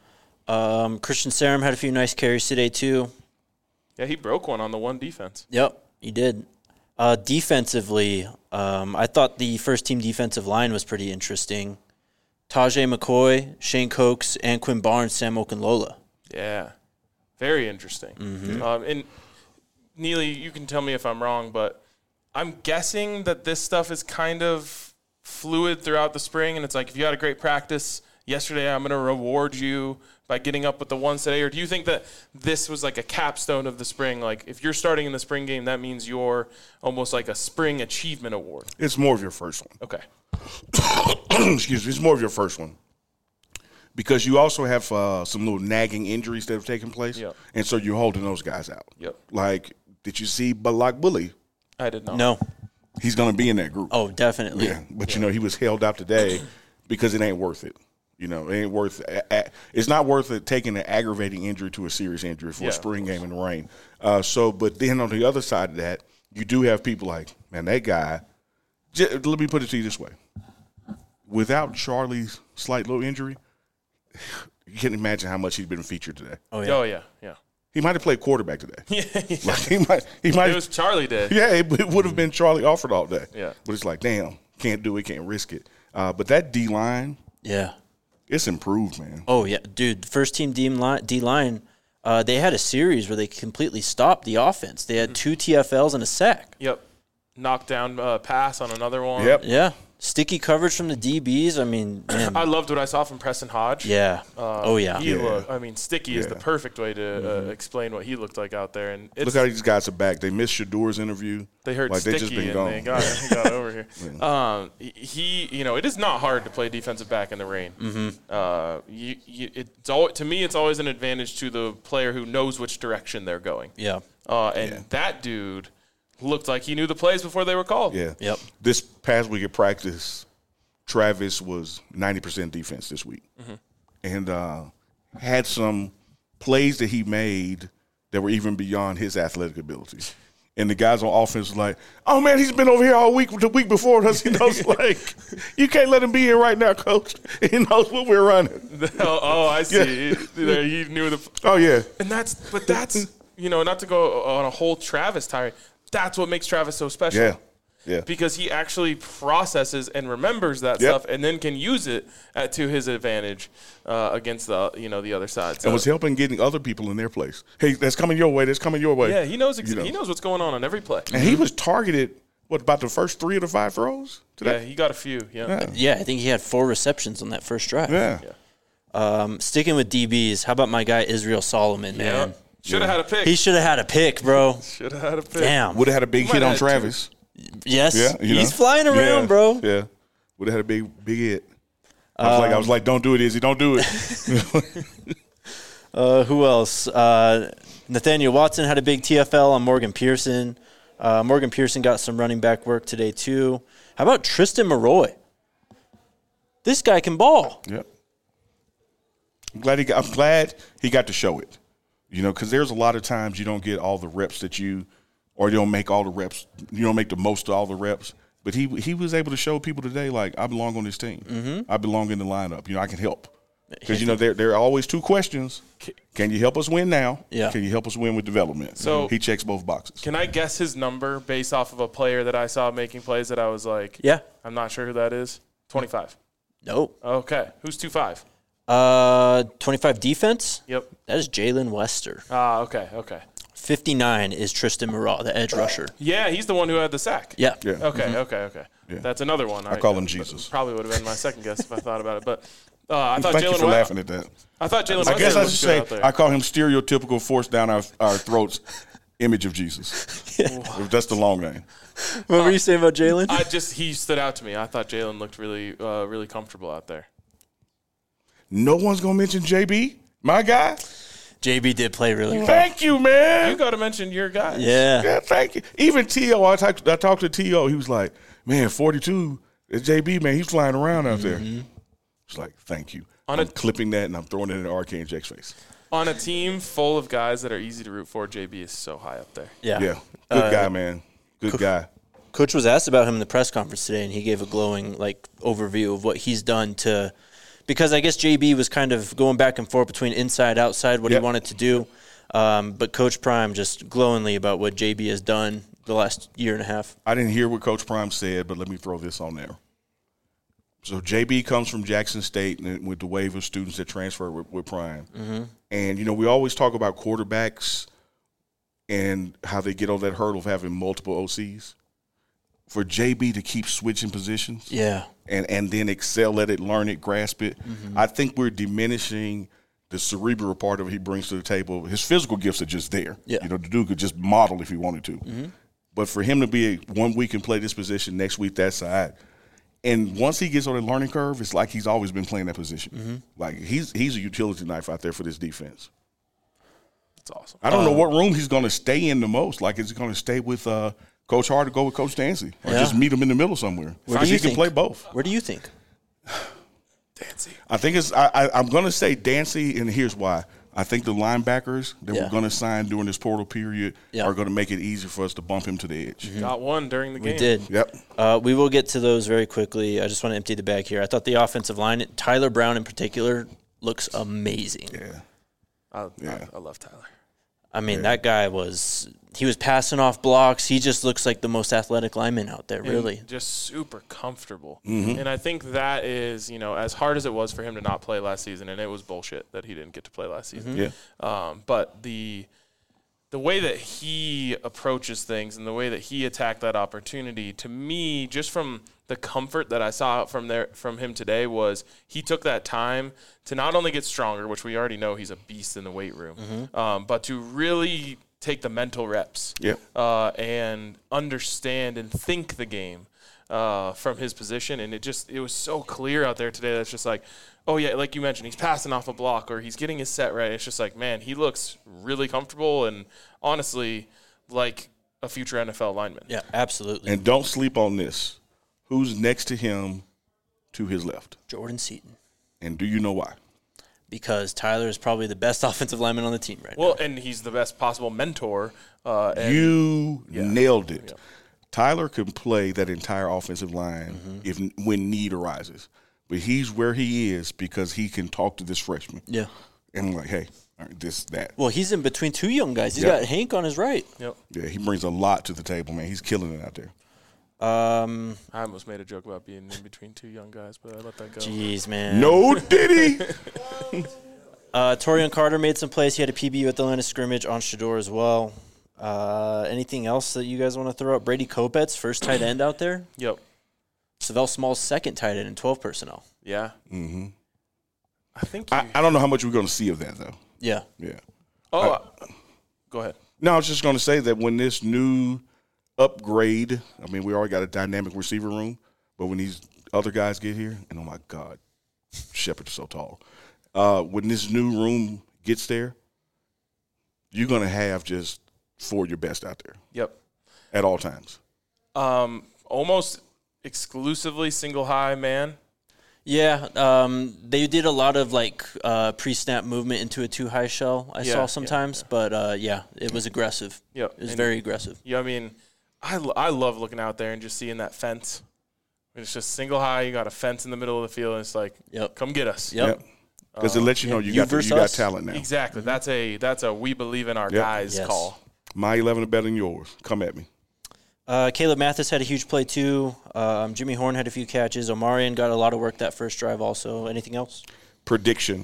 Um, Christian Sarum had a few nice carries today, too. Yeah, he broke one on the one defense. Yep, he did. Uh, defensively, um, I thought the first-team defensive line was pretty interesting. Tajay McCoy, Shane Cokes, and Quinn Barnes, Sam Okunlola. Yeah, very interesting. Mm-hmm. Um, and Neely, you can tell me if I'm wrong, but I'm guessing that this stuff is kind of fluid throughout the spring, and it's like if you had a great practice yesterday, I'm going to reward you by getting up with the ones today? Or do you think that this was like a capstone of the spring? Like if you're starting in the spring game, that means you're almost like a spring achievement award. It's more of your first one. Okay. Excuse me. It's more of your first one. Because you also have uh, some little nagging injuries that have taken place. Yep. And so you're holding those guys out. Yep. Like, did you see Balak Bully? I did not. No. He's going to be in that group. Oh, definitely. Yeah. But, you know, he was held out today because it ain't worth it. You know, it ain't worth it. It's not worth it taking an aggravating injury to a serious injury for Yeah, a spring game in the rain. Uh, so, but then on the other side of that, you do have people like, man, that guy, j- let me put it to you this way. Without Charlie's slight little injury, you can't imagine how much he's been featured today. Oh, yeah. Oh, yeah. Yeah. He might have played quarterback today. Yeah. Like he might, he might. It was Charlie Day. Yeah, it, it would have been Charlie Alford all day. Yeah. But it's like, damn, can't do it, can't risk it. Uh, but that D line, Yeah. it's improved, man. Oh, yeah. Dude, first team D line, D line uh, they had a series where they completely stopped the offense. They had two T F Ls and a sack. Yep. Knocked down uh, pass on another one. Yep. Yeah. Sticky coverage from the D Bs. I mean, man. I loved what I saw from Preston Hodge. yeah. Uh, oh, yeah. He Yeah. looked, I mean, sticky is the Yeah. perfect way to uh, explain what he looked like out there. And it's, Look how these guys are back. They missed Shador's interview. they heard like sticky they just been and gone. they got, he got over here. Um, he, you know, it is not hard to play defensive back in the rain. Mm-hmm. Uh, you, you, it's all, to me, it's always an advantage to the player who knows which direction they're going. Yeah. Uh, and Yeah. that dude looked like he knew the plays before they were called. Yeah. Yep. This past week at practice, Travis was ninety percent defense this week. Mm-hmm. And uh, had some plays that he made that were even beyond his athletic abilities. And the guys on offense were like, oh, man, he's been over here all week, the week before us. He knows, like, you can't let him be here right now, coach. He knows what we're running. oh, oh, I see. He, he knew the. Oh, yeah. And that's, but that's, you know, not to go on a whole Travis tirade. That's what makes Travis so special. Yeah. Yeah. Because he actually processes and remembers that Yep. stuff, and then can use it at, to his advantage uh, against the you know the other side. So, And was helping getting other people in their place. Hey, that's coming your way. That's coming your way. yeah, he knows ex- You know. he knows what's going on on every play. And he was targeted, what, about the first three of the five throws Yeah, today? he got a few. Yeah, Yeah. Yeah, I think he had four receptions on that first drive. Yeah. Yeah. Um, sticking with D Bs, how about my guy Israel Solomon, man? Should have had a pick. He should have had a pick, bro. Should have had a pick. Damn. Would have had a big Might hit have on had two. Travis. Yes. Yeah, you He's know. flying around, Yeah, bro. Yeah. Would have had a big, big hit. I was like, I was like, don't do it, Izzy. Don't do it. Uh, who else? Uh, Nathaniel Watson had a big T F L on Morgan Pearson. Uh, Morgan Pearson got some running back work today, too. How about Tristan Maroy? This guy can ball. Yep. I'm glad he got, I'm glad he got to show it. You know, because there's a lot of times you don't get all the reps that you, or you don't make all the reps. You don't make the most of all the reps. But he he was able to show people today, like, I belong on this team. Mm-hmm. I belong in the lineup. You know, I can help. Because, you know, there, there are always two questions. Can you help us win now? Yeah. Can you help us win with development? So he checks both boxes. Can I guess his number based off of a player that I saw making plays that I was like, Yeah. I'm not sure who that is? twenty-five. Nope. Okay. Who's two five? Uh, twenty-five defense. Yep. That is Jalen Wester. Ah, okay, okay. fifty-nine is Tristan Murrah, the edge rusher. Yeah, he's the one who had the sack. Yeah. Yeah. Okay, okay, okay. Yeah. That's another one. I call him Jesus. Probably would have been my second guess if I thought about it. But uh, I thought Thank you Jalen for West- laughing at that. I thought Jalen I Wester guess I was should good say out there. I call him stereotypical force down our, our throats image of Jesus. If that's the long name. What were you saying about Jalen? I just he stood out to me. I thought Jalen looked really, uh, really comfortable out there. No one's going to mention J B, my guy. J B did play really well. Thank you, man. You got to mention your guys. Yeah. Yeah, thank you. Even T O, I talked, I talked to T O. He was like, man, forty-two, it's J B, man. He's flying around out there. It's like, thank you. On I'm a- clipping that, and I'm throwing it in R K and Jake's face. On a team full of guys that are easy to root for, J B is so high up there. Yeah. Yeah, good Uh, guy, man. Good guy. Coach was asked about him in the press conference today, and he gave a glowing like overview of what he's done to – because I guess J B was kind of going back and forth between inside, outside, what Yep. he wanted to do. Um, but Coach Prime just glowingly about what J B has done the last year and a half. I didn't hear what Coach Prime said, but let me throw this on there. So J B comes from Jackson State and with the wave of students that transfer with, with Prime. Mm-hmm. And, you know, we always talk about quarterbacks and how they get over that hurdle of having multiple O Cs. For J B to keep switching positions Yeah. and, and then excel at it, learn it, grasp it, mm-hmm. I think we're diminishing the cerebral part of what he brings to the table. His physical gifts are just there. Yeah. You know, the dude could just model if he wanted to. Mm-hmm. But for him to be a, one week and play this position, next week that side, and once he gets on the learning curve, it's like he's always been playing that position. Mm-hmm. Like he's he's a utility knife out there for this defense. That's awesome. I don't Uh, know what room he's going to stay in the most. Like, is he going to stay with uh, Coach Hart or go with Coach Dancy? Or Yeah. just meet him in the middle somewhere? Where do Because you he can think? play both. Where do you think? Dancy. I think it's I, I, I'm going to say Dancy, and here's why. I think the linebackers that Yeah. we're going to sign during this portal period Yeah. are going to make it easy for us to bump him to the edge. Got one during the game. We did. Yep. Uh, we will get to those very quickly. I just want to empty the bag here. I thought the offensive line, Tyler Brown in particular, looks amazing. Yeah. I, Yeah. I, I love Tyler. I mean, that guy was – he was passing off blocks. He just looks like the most athletic lineman out there, And really. just super comfortable. Mm-hmm. And I think that is, you know, as hard as it was for him to not play last season, and it was bullshit that he didn't get to play last season. Yeah. Um, but the the way that he approaches things and the way that he attacked that opportunity, to me, just from the comfort that I saw from there from him today, was he took that time to not only get stronger, which we already know he's a beast in the weight room, Mm-hmm. um, but to really take the mental reps Yep. uh, and understand and think the game uh, from his position. And it just it was so clear out there today. That's just like, oh yeah, like you mentioned, he's passing off a block or he's getting his set right. It's just like, man, he looks really comfortable and honestly like a future N F L lineman. Yeah, absolutely. And don't sleep on this. Who's next to him to his left? Jordan Seaton. And do you know why? Because Tyler is probably the best offensive lineman on the team right Well, and he's the best possible mentor. Uh, and You yeah. nailed it. Yeah. Tyler can play that entire offensive line Mm-hmm. if when need arises. But he's where he is because he can talk to this freshman. now. Yeah. And I'm like, hey, all right, this, that. Well, he's in between two young guys. He's Yeah. got Hank on his right. Yep. Yeah, he brings a lot to the table, man. He's killing it out there. Um, I almost made a joke about being in between two young guys, but I let that go. Jeez, man. No, did he? Uh, Torian Carter made some plays. He had a P B U at the line of scrimmage on Shador as well. Uh, anything else that you guys want to throw out? Brady Kopetz, first tight end out there. Yep. Savell Small's second tight end in twelve personnel. Yeah. Mm-hmm. I think you, I, I don't know how much we're going to see of that, though. Yeah. Yeah. oh, uh, go ahead. No, I was just going to say that when this new upgrade, I mean, we already got a dynamic receiver room, but when these other guys get here, and oh my God, Shepard is so tall. Uh, when this new room gets there, you're going to have just four of your best out there Yep. at all times. Um, almost exclusively single high man. Yeah, um, they did a lot of like uh, pre-snap movement into a two-high shell. I Yeah, saw yeah, sometimes, yeah. but uh, yeah, it was aggressive. Yep. It was And- very aggressive. Yeah, I mean, I, lo- I love looking out there and just seeing that fence. It's just single high. You got a fence in the middle of the field, and it's like, Yep. come get us. Yep. Because it lets you know you, You got the, versus you got us. talent now. Exactly. That's a that's a we believe in our Yep. guys Yes. call. My eleven are better than yours. Come at me. Uh, Caleb Mathis had a huge play too. Um, Jimmy Horn had a few catches. Omarion got a lot of work that first drive also. Anything else? Prediction.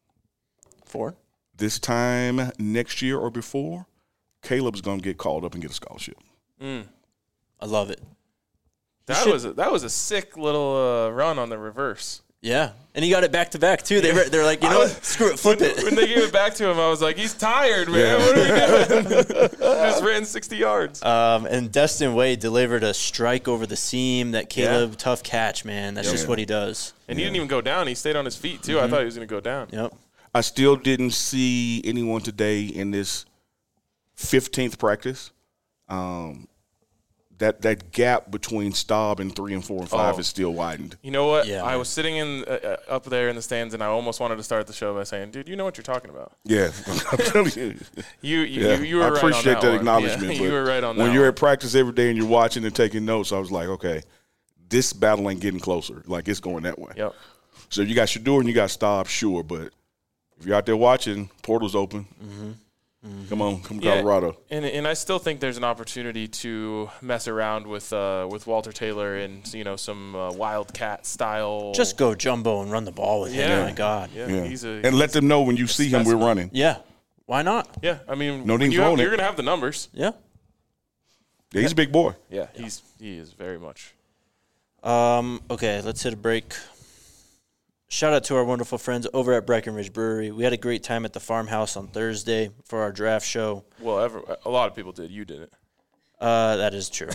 Four? This time next year or before, Caleb's going to get called up and get a scholarship. Mm. I love it. That should- was a, that was a sick little uh, run on the reverse. Yeah. And he got it back to back too. They were, they're like, you know what? Screw it, flip when, it. when they gave it back to him, I was like, he's tired, man. What are we doing? Just ran sixty yards. Um, and Destin Wade delivered a strike over the seam. That Caleb, tough catch, man. That's just Yeah. what he does. And he didn't even go down. He stayed on his feet, too. I thought he was going to go down. Yep. I still didn't see anyone today in this fifteenth practice. Um, that that gap between Staub and three and four and five Oh. is still widened. You know what? Yeah, I man. was sitting in uh, uh, up there in the stands, and I almost wanted to start the show by saying, dude, you know what you're talking about. Yeah, I'm telling you. You you, Yeah. you, you were I right appreciate on that, that one. acknowledgement. Yeah, but you were right on that When you're one. at practice every day and you're watching and taking notes, I was like, okay, this battle ain't getting closer. Like, it's going that way. Yep. So you got Shador and you got Staub, sure, but if you're out there watching, portal's open. Mm-hmm. Come on, come Yeah, Colorado. And and I still think there's an opportunity to mess around with uh, with Walter Taylor and you know some uh, Wildcat style. Just go jumbo and run the ball with him. Yeah. Oh, my God. yeah, Yeah. he's a And let them know when you see him, we're specimen. running. Yeah. Why not? yeah. I mean, No when need you have, throwing it. you're gonna have the numbers. Yeah. Yeah, he's a big boy. Yeah, he's he is very much. Um, okay, let's hit a break. Shout out to our wonderful friends over at Breckenridge Brewery. We had a great time at the farmhouse on Thursday for our draft show. Well, ever, a lot of people did. You didn't. Uh, that is true.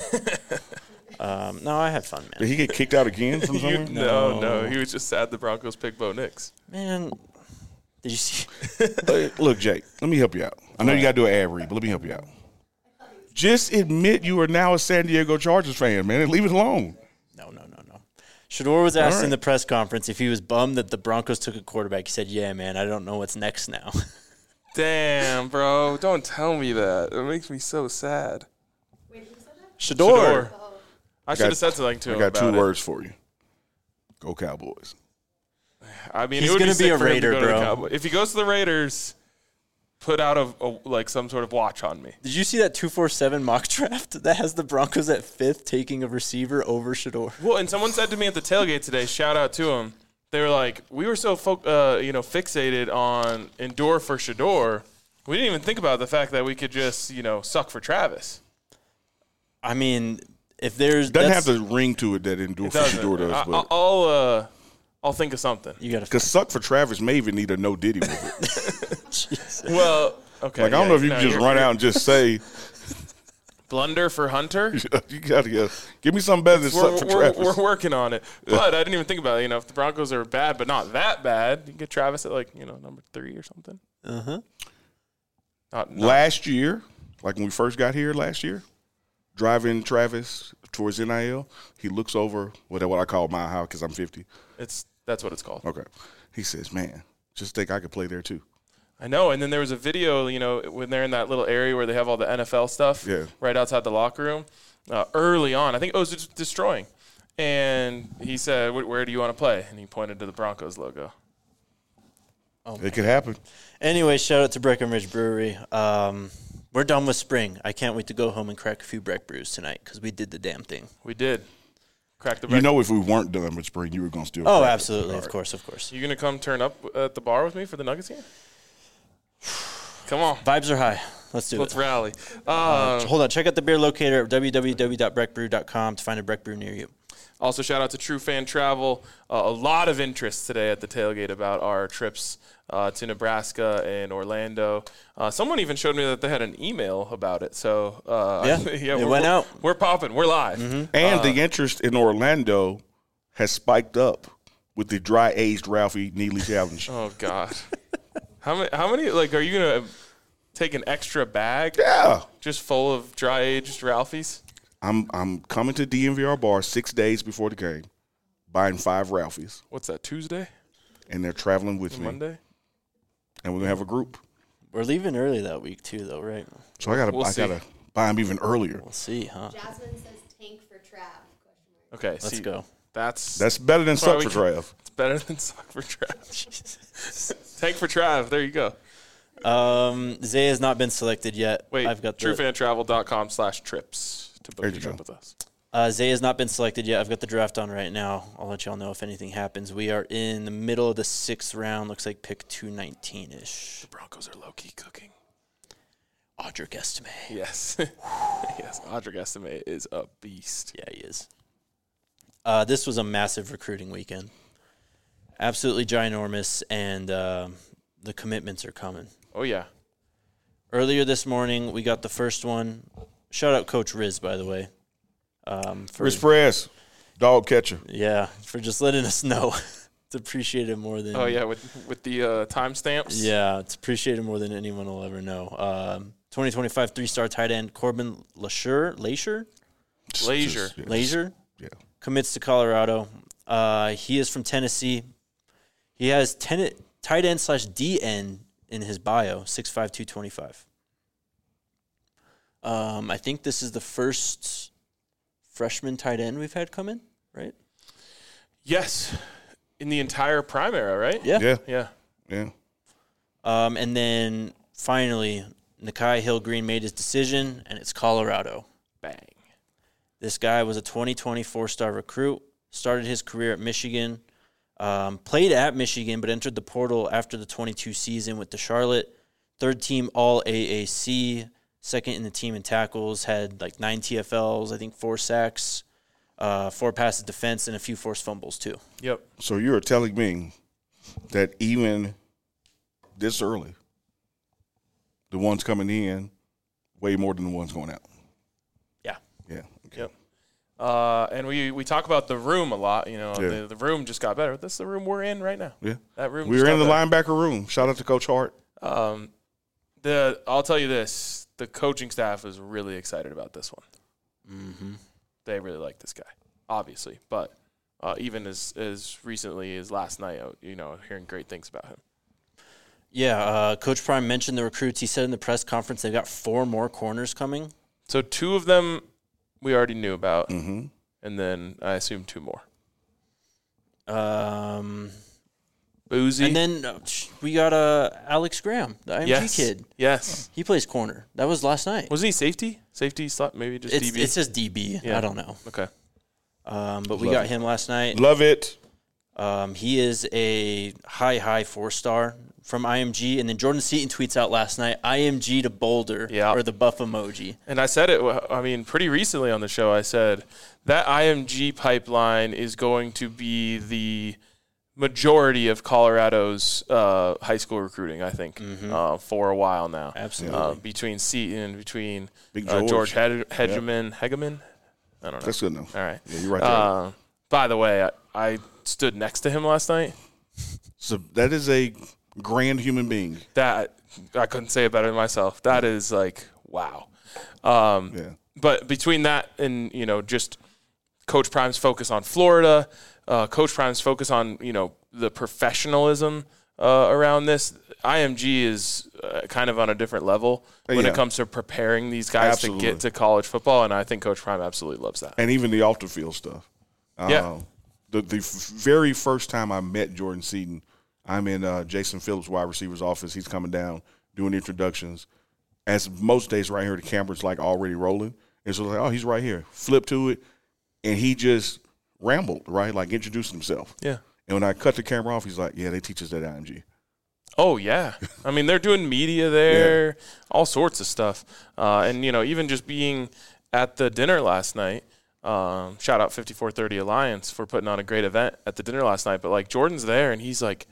um, no, I had fun, Did man. he get kicked out again from You, somewhere? no, No. no, he was just sad the Broncos picked Bo Nix. Man, did you see? Hey, look, Jake, let me help you out. I know you got to do an ad read, but let me help you out. Just admit you are now a San Diego Chargers fan, man, and leave it alone. No, no, no, no. Shador was asked All in right. the press conference if he was bummed that the Broncos took a quarterback. He said, yeah, man, I don't know what's next now. Damn, bro! Don't tell me that. It makes me so sad. Shador. Shador. I should got- have said something to I him got about two it. words for you. Go Cowboys. I mean, He's it would gonna be, be sick a for him to Raider, go to the bro. Cowboys. If he goes to the Raiders, put out a, a like some sort of watch on me. Did you see that two forty-seven mock draft that has the Broncos at fifth taking a receiver over Shador? Well, and someone said to me at the tailgate today, shout out to him. They were like, we were so fo- uh, you know fixated on endure for Shador, we didn't even think about the fact that we could just you know suck for Travis. I mean, if there's Doesn't that's- have the ring to it that Endure It for doesn't. Shador does, I, but I'll uh, I'll think of something. you got to because Suck for Travis may even need a no Diddy with it. Well, okay. Like, I don't yeah, know if you no, can just you're- run you're- out and just say, blunder for Hunter. you got to get, give me something better than Suck We're, for we're, Travis. we're working on it, but I didn't even think about it. You know, if the Broncos are bad, but not that bad, you can get Travis at like you know number three or something. Uh huh. Not, not Last year, like when we first got here last year, driving Travis towards N I L, he looks over what, what I call my house because I'm fifty. it's that's what it's called. Okay. He says, man, just think I could play there too. I know. And then there was a video, you know, when they're in that little area where they have all the N F L stuff, Yeah. right outside the locker room, uh, early on. I think it was just destroying. And he said, "Wh- where do you want to play?" And he pointed to the Broncos logo. It could happen. Anyway, shout out to Breckenridge Brewery. Um, we're done with spring. I can't wait to go home and crack a few Breck brews tonight because we did the damn thing. We did. Crack the You break. know, if we weren't done with spring, you were going to still. Oh, crack it. absolutely. All Of right. course, of course. You going to come turn up at the bar with me for the Nuggets game? Come on. Vibes are high. Let's do Let's it. rally. Uh, Um, hold on. Check out the beer locator at w w w dot breck brew dot com to find a Breck brew near you. Also, shout out to True Fan Travel. Uh, a lot of interest today at the tailgate about our trips uh, to Nebraska and Orlando. Uh, someone even showed me that they had an email about it. So uh, Yeah, yeah, it we're, went we're- out. We're popping. We're live. And Uh, the interest in Orlando has spiked up with the dry aged Ralphie Neely challenge. Oh God. how many? How many? Like, are you gonna take an extra bag Yeah. just full of dry aged Ralphie's? I'm I'm coming to D M V R bar six days before the game, buying five Ralphies, What's that, Tuesday? and they're traveling with me, Monday? and we're gonna have a group. We're leaving early that week too, though, right? So I gotta, We'll I see. gotta buy them even earlier. We'll see, huh? Jasmine says tank for Trav. Question mark. Okay, Let's see, go. That's That's better than That's why suck we for can- Trav. it's better than suck for Trav. Tank for Trav. There you go. Um, Zay has not been selected yet. Wait, I've got the, truefantravel.com slash trips to book There your you trip go. with us. uh, Zay has not been selected yet. I've got the draft on right now. I'll let y'all know if anything happens. We are in the middle of the sixth round. Looks like pick two nineteen ish. The Broncos are low-key cooking. Audric Estime. Yes. yes, Audric Estime is a beast. Yeah, he is. Uh, this was a massive recruiting weekend. Absolutely ginormous, and uh, the commitments are coming. Oh, yeah. Earlier this morning, we got the first one. Shout out Coach Riz, by the way. Um, for, Rich Press, dog catcher. yeah, for just letting us know. It's appreciated more than. Oh, yeah, with with the uh, timestamps. Yeah, it's appreciated more than anyone will ever know. Um, twenty twenty-five three-star tight end Corbin Lasher, Lasher, Lazier. Just- yeah, Lazier Yeah. commits to Colorado. Uh, he is from Tennessee. He has ten, tight end slash D end in his bio, six five, two twenty-five. Um, I think this is the first freshman tight end we've had come in, right? Yes. In the entire prime era, right? Yeah. Yeah. Yeah. Yeah. Um, and then finally, Nakai Hill Green made his decision, and it's Colorado. Bang. This guy was a twenty twenty four-star recruit, started his career at Michigan, um, played at Michigan, but entered the portal after the twenty-two season with the Charlotte. Third team All A A C, second in the team in tackles, had like nine T F Ls, I think four sacks, uh, four passes defense, and a few forced fumbles too. Yep. So you're telling me that even this early, the ones coming in way more than the ones going out. Yeah. Yeah. Okay. Yep. Uh, and we, we talk about the room a lot. You know, Yeah. the, the room just got better. This is the room we're in right now. Yeah. That room. We just were in the got better. linebacker room. Shout out to Coach Hart. Um, the I'll tell you this: the coaching staff is really excited about this one. Mm-hmm. They really like this guy, obviously. But uh, even as as recently as last night, uh, you know, hearing great things about him. Yeah, uh, Coach Prime mentioned the recruits. He said in the press conference they've got four more corners coming. So two of them we already knew about, Mm-hmm. and then I assume two more. Um, Boozy. and then uh, sh- we got uh, Alex Graham, the I M G yes. kid. Yes. He plays corner. That was last night. Wasn't he safety? Safety slot? Maybe just It's, D B? it's just D B. Yeah. I don't know. Okay. Um, but we Love got it. him last night. Love it. Um, he is a high, high four star from I M G. And then Jordan Seaton tweets out last night, I M G to Boulder, Yeah. or the buff emoji. And I said it, I mean, pretty recently on the show, I said that I M G pipeline is going to be the majority of Colorado's uh, high school recruiting, I think, uh, for a while now. Absolutely. Uh, between Seaton, between Big uh, George. George Hed- Hegeman. Hegeman? I don't know. That's good enough. All right. Yeah, you're right there. Uh, by the way, I, I stood next to him last night. So that is a grand human being. That, I couldn't say it better than myself. That is like, wow. Um, Yeah. But between that and, you know, just Coach Prime's focus on Florida, uh, Coach Prime's focus on, you know, the professionalism uh, around this, I M G is uh, kind of on a different level when Yeah. it comes to preparing these guys Absolutely. to get to college football, and I think Coach Prime absolutely loves that. And even the off the field stuff. Yeah. Uh, the the f- very first time I met Jordan Seaton, I'm in uh, Jason Phillips' wide receiver's office. He's coming down, doing introductions. As most days right here, the camera's like already rolling. And so like, oh, he's right here. Flip to it, and he just rambled, right? Like introduced himself. Yeah. And when I cut the camera off, he's like, yeah, they teach us at I M G. Oh, yeah. I mean, they're doing media there, all sorts of stuff. Uh, and, you know, even just being at the dinner last night, um, shout out fifty-four thirty Alliance for putting on a great event at the dinner last night. But, like, Jordan's there, and he's, like,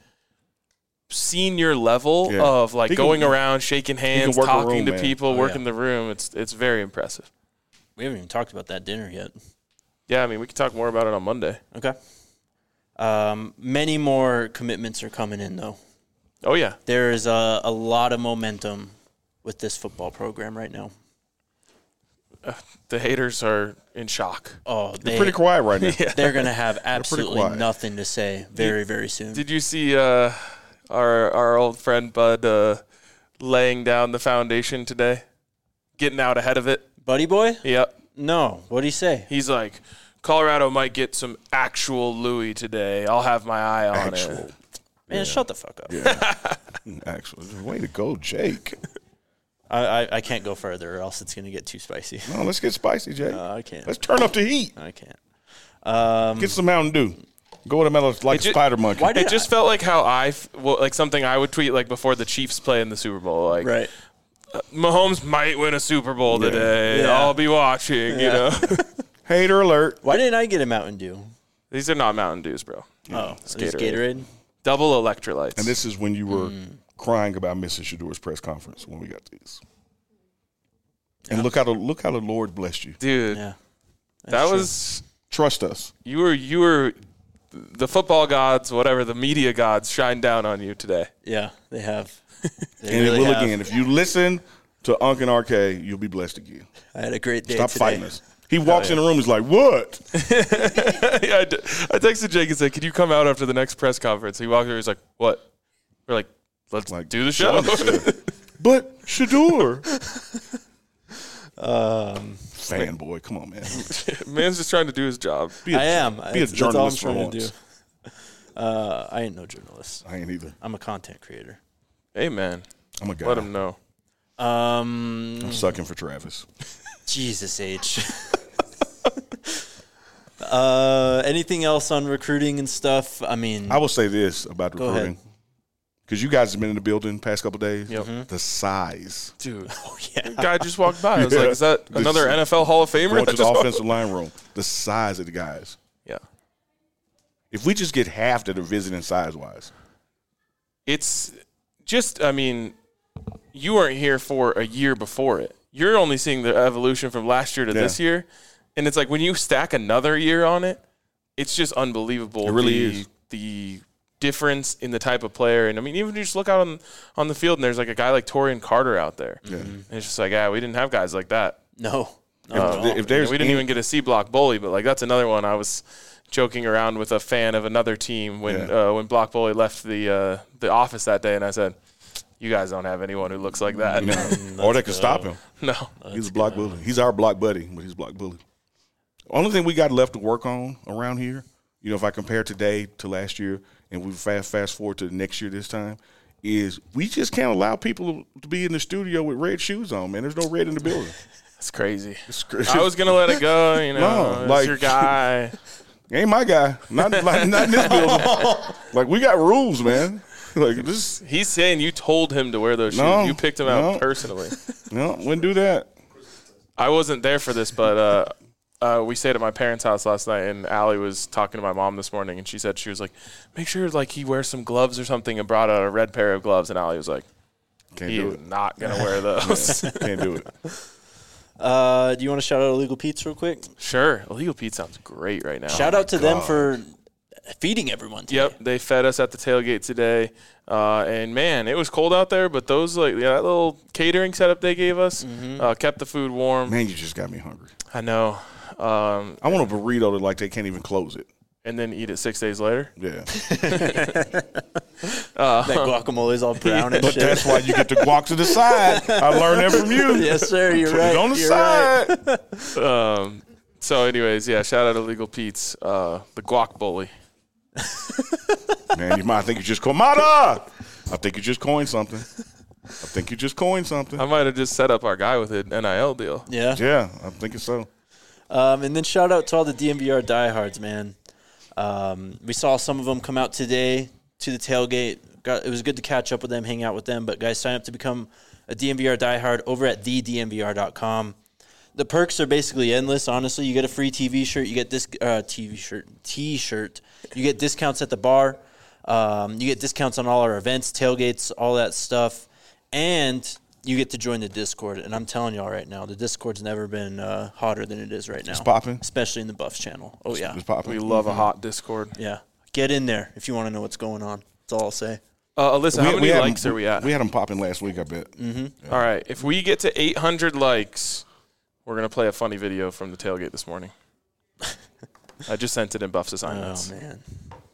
senior level Yeah. of, like, He can- going around, shaking hands, work a talking room, to man. people, Oh, working yeah. the room. It's it's very impressive. We haven't even talked about that dinner yet. Yeah, I mean, we can talk more about it on Monday. Okay. Um, many more commitments are coming in, though. Oh, yeah. There is a, a lot of momentum with this football program right now. uh, the haters are in shock. Oh, They're they, pretty quiet right now. they're going to have absolutely quiet. nothing to say very, very soon. Did you see uh, our our old friend Bud uh, laying down the foundation today, getting out ahead of it? Buddy Boy? Yep. No. What'd he say? He's like, Colorado might get some actual Louis today. I'll have my eye on Actual. it. Man, shut the fuck up. Yeah. Actually, way to go, Jake. I, I, I can't go further or else it's going to get too spicy. No, let's get spicy, Jake. Uh, I can't. Let's turn up the heat. I can't. Um, Get some Mountain Dew. Go with a mellow like It ju- spider monkey. Why did It just felt like how I, f- well, like something I would tweet like before the Chiefs play in the Super Bowl. Like, right. Mahomes might win a Super Bowl Yeah. today. Yeah. I'll be watching, you know. Hater alert. Why didn't I get a Mountain Dew? These are not Mountain Dews, bro. Oh, it's it's Gatorade. Gatorade. Double electrolytes. And this is when you were crying about missing Shador's press conference when we got these. And look how the look how the Lord blessed you. Dude, Yeah. that true. was Trust us. you were you were the football gods, whatever the media gods, shine down on you today. Yeah, they have. They And really it will have. again. If you listen to Unc and R K, you'll be blessed again. I had a great day Stop today. fighting us. He walks in the room, he's like, what? yeah, I, d- I texted Jake and said, "Could you come out after the next press conference?" He walked over. He's like, "What?" We're like, "Let's Like, do the show." But Shador. Um, Fanboy, come on, man. Man's just trying to do his job. Be a, I am. Be a That's- that's all I'm journalist for trying to once. do. Uh, I ain't no journalist. I ain't either. I'm a content creator. Hey, man, I'm a guy. let him know. Um, I'm sucking for Travis. Jesus H. uh, anything else on recruiting and stuff? I mean, I will say this about Go recruiting. Because you guys have been in the building the past couple days. Yep. The size. Dude, oh yeah. guy just walked by. I was like, Yeah. "Is that The- another N F L Hall of Famer?" Going that to the just walked- offensive line room. The size of the guys. Yeah, If we just get half that are visiting size-wise. it's just. I mean, you weren't here for a year before it. You're only seeing the evolution from last year to Yeah. this year, and it's like when you stack another year on it, it's just unbelievable. It really the, is. the difference in the type of player, and I mean, even if you just look out on on the field, and there's like a guy like Torian Carter out there, Yeah. and it's just like, yeah, we didn't have guys like that. No. No. If- at all. if there's we didn't any- even get a C block bully, but like that's another one. I was joking around with a fan of another team when Yeah. uh, when block bully left the uh, the office that day, and I said, "You guys don't have anyone who looks like that." You know, or they could stop him. No, He's a block bully. He's our block buddy, but he's a block bully. Only thing we got left to work on around here, you know, if I compare today to last year and we fast fast forward to next year this time, is we just can't allow people to be in the studio with red shoes on, man. There's no red in the building. it's crazy. It's crazy. I was gonna let it go, you know. No, it's like- your guy. Ain't my guy. Not like not in this building. Like we got rules, man. Like this He's saying you told him to wear those shoes. No, you picked him out no. personally. no, wouldn't do that. I wasn't there for this, but uh, uh, we stayed at my parents' house last night, and Allie was talking to my mom this morning, and she said she was like, "Make sure like he wears some gloves or something," and brought out a red pair of gloves, and Allie was like, Can't "He do is it. not gonna wear those." Can't do it. Uh, do you want to shout out Illegal Pete's real quick? Sure, Illegal Pete sounds great right now. Shout out to them God. for feeding everyone today. Yep, they fed us at the tailgate today, uh, and man, it was cold out there, but those like yeah, that little catering setup they gave us uh, kept the food warm. Man, you just got me hungry. I know, um, I want a burrito that like they can't even close it. and then eat it six days later. Yeah. Uh, That guacamole's all brown and But shit. that's why you get the guac to the side. I learned that from you. Yes, sir. You're Put right. it on the You're side. right. Um, so, anyways, yeah, shout out to Legal Pete's, uh, the guac bully. Man, you might think you just coined Mata. I think you just coined something. I think you just coined something. I might have just set up our guy with an N I L deal. Yeah. Yeah, I'm thinking so. Um, and then shout out to all the D M V R diehards, man. Um, we saw some of them come out today to the tailgate. Got, it was good to catch up with them, hang out with them. But guys, sign up to become a D M V R diehard over at the D M V R dot com. The perks are basically endless. Honestly, you get a free T V shirt, you get this uh, T V shirt, T-shirt. You get discounts at the bar. Um, you get discounts on all our events, tailgates, all that stuff, and you get to join the Discord. And I'm telling y'all right now, the Discord's never been uh, hotter than it is right now. It's popping. Especially in the Buffs channel. Oh, yeah. It's popping. We love a hot Discord. Yeah. Get in there if you want to know what's going on. That's all I'll say. Uh, Alyssa, how many had likes them, are we at? We had them popping last week, I bet. All right, if we get to eight hundred likes, we're We're going to play a funny video from the tailgate this morning. I just sent it in Buff's assignments. Oh, man.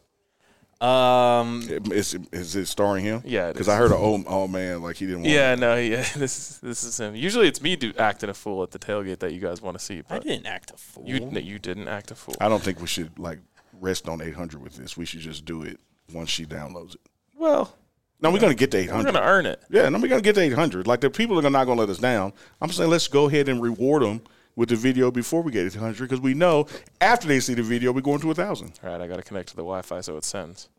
Um, Is, is it starring him? Yeah, it Because is. I heard a oh, oh man, like he didn't want Yeah, no, yeah, this is this is him. Usually it's me do, acting a fool at the tailgate that you guys want to see. But I didn't act a fool. You, no, you didn't act a fool. I don't think we should like rest on eight hundred with this. We should just do it once she downloads it. Well, No, we're going to get to eight we're hundred. going to earn it. Yeah, no, we're going to get to eight hundred. Like, the people are not going to let us down. I'm saying let's go ahead and reward them with the video before we get to eight hundred, because we know after they see the video, we're going to one thousand. All right, I got to connect to the Wi-Fi so it sends.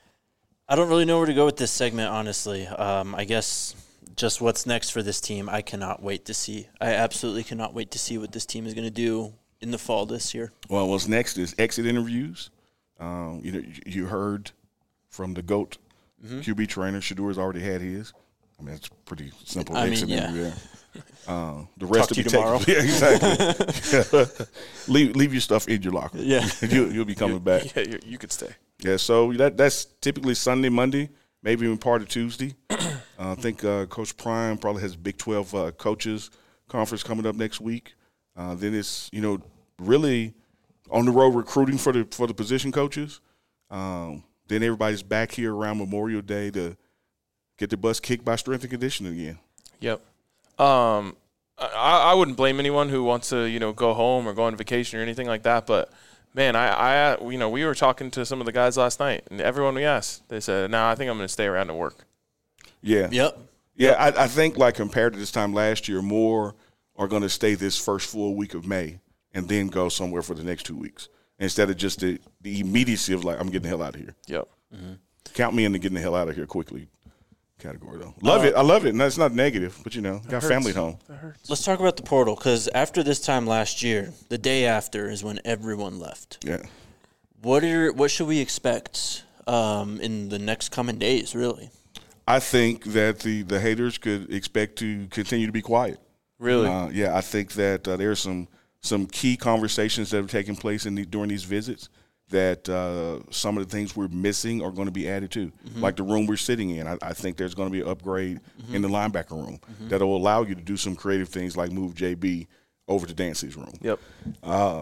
I don't really know where to go with this segment, honestly. Um, I guess just what's next for this team, I cannot wait to see. I absolutely cannot wait to see what this team is going to do in the fall this year. Well, what's next is exit interviews. Um, you know, you heard from the GOAT mm-hmm. Q B trainer. Shador's already had his. I mean, it's pretty simple I exit mean, yeah. interview. Uh, the rest Talk will to be you tomorrow. taken. Yeah, exactly. leave leave your stuff in your locker. Yeah. you, you'll be coming You, back. Yeah, you, you could stay. Yeah, so that that's typically Sunday, Monday, maybe even part of Tuesday. uh, I think uh, Coach Prime probably has Big twelve uh, coaches conference coming up next week. Uh, then it's, you know, really on the road recruiting for the for the position coaches. Um, then everybody's back here around Memorial Day to get the bus kicked by strength and conditioning again. Yep. Um, I, I wouldn't blame anyone who wants to, you know, go home or go on vacation or anything like that. But, man, I, I, you know, we were talking to some of the guys last night, and everyone we asked, they said, no, nah, I think I'm going to stay around and work. Yeah. Yep. Yeah, I, I think, like, compared to this time last year, more are going to stay this first full week of May and then go somewhere for the next two weeks instead of just the, the immediacy of, like, I'm getting the hell out of here. Yep. Mm-hmm. Count me into getting the hell out of here quickly category, though. Love uh, it. I love it. And that's not negative, but, you know, got hurts. family at home. That hurts. Let's talk about the portal, because after this time last year, the day after is when everyone left. Yeah. What are what should we expect um, in the next coming days, really? I think that the, the haters could expect to continue to be quiet. Really? Uh, yeah, I think that uh, there's some some key conversations that have taken place in the, during these visits that uh, some of the things we're missing are going to be added to, mm-hmm. like the room we're sitting in. I, I think there's going to be an upgrade mm-hmm. in the linebacker room mm-hmm. that will allow you to do some creative things like move J B over to Dancy's room. Yep. Uh,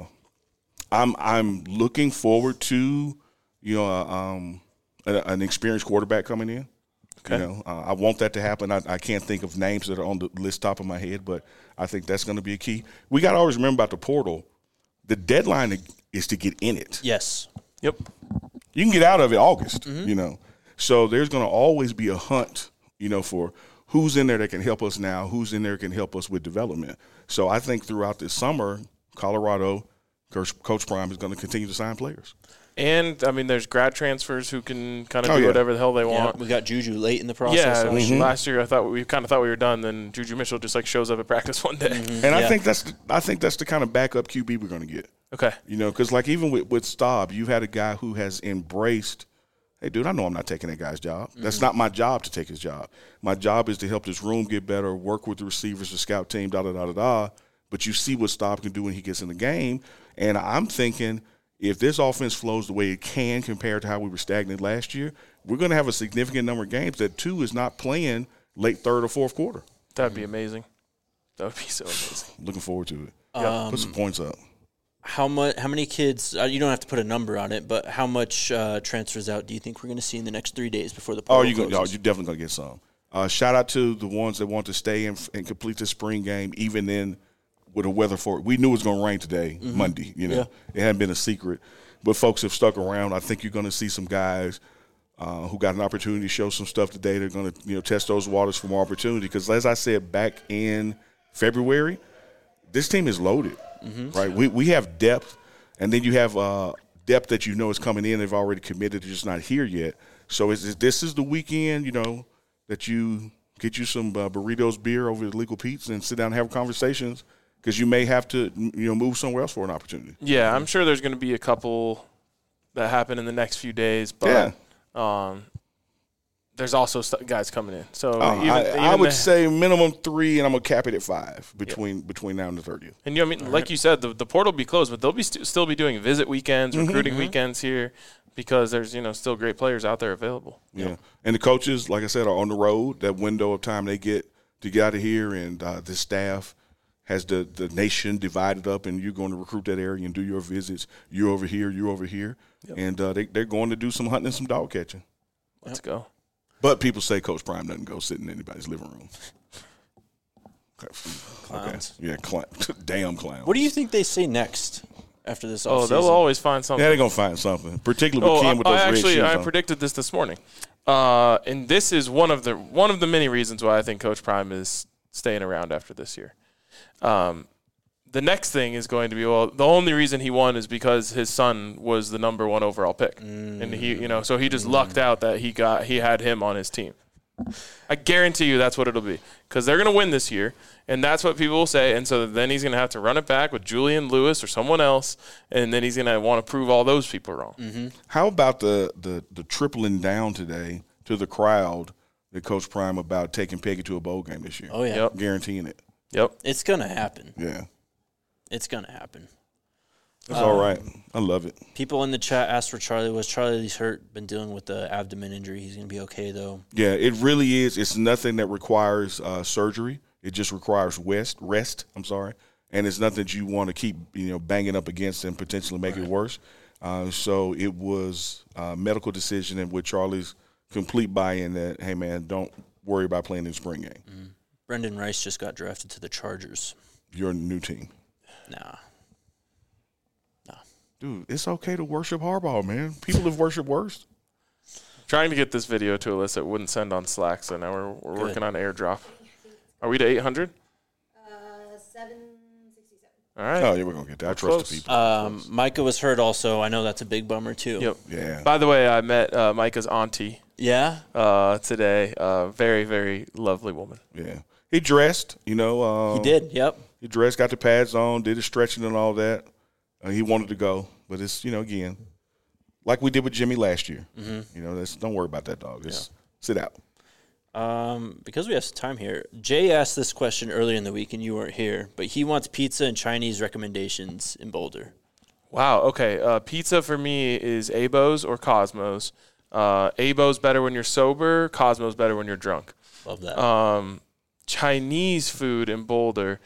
I'm I'm looking forward to, you know, uh, um, a, an experienced quarterback coming in. Okay. You know, uh, I want that to happen. I, I can't think of names that are on the list top of my head, but I think that's going to be a key. We got to always remember about the portal. The deadline is to get in it. Yes. Yep. You can get out of it August, mm-hmm. you know. So there's going to always be a hunt, you know, for who's in there that can help us now, who's in there that can help us with development. So I think throughout this summer, Colorado, Coach, Coach Prime is going to continue to sign players. And, I mean, there's grad transfers who can kind of Oh, do yeah. whatver the hell they Yeah, want. we got Juju late in the process. Yeah, last Mm-hmm. year. last year I thought we kind of thought we were done. Then Juju Mitchell just like shows up at practice one day. Mm-hmm. And I Yeah. think that's the, I think that's the kind of backup Q B we're going to get. Okay. You know, because like even with, with Staub, you've had a guy who has embraced, hey, dude, I know I'm not taking that guy's job. Mm-hmm. That's not my job to take his job. My job is to help this room get better, work with the receivers, the scout team, da da da da da. But you see what Staub can do when he gets in the game, and I'm thinking if this offense flows the way it can compared to how we were stagnant last year, we're going to have a significant number of games that two is not playing late third or fourth quarter. That'd be amazing. That would be so amazing. Looking forward to it. Um, Put some points up. How much? How many kids? Uh, you don't have to put a number on it, but how much uh, transfers out do you think we're going to see in the next three days before the Oh, portal you're, gonna, oh, closes? you're definitely going to get some. Uh, shout out to the ones that want to stay and, and complete the spring game, even in with a weather for we knew it was going to rain today, Mm-hmm. Monday. You know, Yeah. it hadn't been a secret, but folks have stuck around. I think you're going to see some guys uh, who got an opportunity to show some stuff today. They're going to you know test those waters for more opportunity because, as I said back in February, this team is loaded. Mm-hmm. Right, we we have depth, and then you have uh, depth that you know is coming in. They've already committed, they're just not here yet. So is this is the weekend, you know, that you get you some uh, burritos, beer over at Legal Pete's, and sit down and have conversations. Because you may have to, you know, move somewhere else for an opportunity. Yeah, I'm sure there's going to be a couple that happen in the next few days, but Yeah. um, there's also st- guys coming in. So Uh, even, I, even I would the- say minimum three, and I'm gonna cap it at five between between now and the thirtieth. and you know, I mean, like you said, the, the portal will be closed, but they'll be st- still be doing visit weekends, Mm-hmm. recruiting weekends here, because there's you know still great players out there available. Yeah, and the coaches, like I said, are on the road. That window of time they get to get out of here, and uh, the staff has the, the nation divided up, and you're going to recruit that area and do your visits. You're over here, you're over here. Yep. And uh, they, they're going to do some hunting and some dog catching. Let's go. But people say Coach Prime doesn't go sit in anybody's living room. Clowns. Okay. Yeah, cl- damn clowns. What do you think they say next after this Oh, offseason? they'll always find something. Yeah, they're going to find something, particularly with Oh, Ken with I, those I red actually shoes I on. predicted this this morning, uh, and this is one of the one of the many reasons why I think Coach Prime is staying around after this year. Um, the next thing is going to be, well, the only reason he won is because his son was the number one overall pick, mm. and he, you know, so he just mm. lucked out that he got he had him on his team. I guarantee you that's what it'll be, because they're going to win this year, and that's what people will say. And so then he's going to have to run it back with Julian Lewis or someone else, and then he's going to want to prove all those people wrong. Mm-hmm. How about the, the the tripling down today to the crowd that Coach Prime about taking Peggy to a bowl game this year? Oh, yeah. Yep. Guaranteeing it. Yep. It's going to happen. Yeah. It's going to happen. That's um, all right. I love it. People in the chat asked for Charlie. Was Charlie's hurt? Been dealing with the abdomen injury. He's going to be okay, though. Yeah, it really is. It's nothing that requires uh, surgery. It just requires rest. Rest. I'm sorry, and it's nothing that you want to keep you know banging up against and potentially make right. it worse. Uh, so it was a medical decision, and with Charlie's complete buy-in that, hey man, don't worry about playing in the spring game. Mm. Brendan Rice just got drafted to the Chargers. Your new team. Nah. Dude, it's okay to worship Harbaugh, man. People have worshipped worse. Trying to get this video to Alyssa, it wouldn't send on Slack, so now we're we're working on AirDrop. Are we to eight hundred? Uh, seven sixty-seven. All right. Oh, yeah, we're going to get that. I trust close. the people. Um, Micah was hurt also. I know that's a big bummer, too. Yep. Yeah. By the way, I met uh, Micah's auntie Yeah? uh, today. Uh, very, very lovely woman. Yeah. He dressed, you know. Uh, He did, yep. He dressed, got the pads on, did his stretching and all that. Uh, he wanted to go, but it's, you know, again, like we did with Jimmy last year. Mm-hmm. You know, that's, don't worry about that dog. Just yeah. sit out. Um, because we have some time here, Jay asked this question earlier in the week, and you weren't here, but he wants pizza and Chinese recommendations in Boulder. Wow, okay. Uh, pizza for me is Abo's or Cosmo's. Uh, Abo's better when you're sober. Cosmo's better when you're drunk. Love that. Um, Chinese food in Boulder.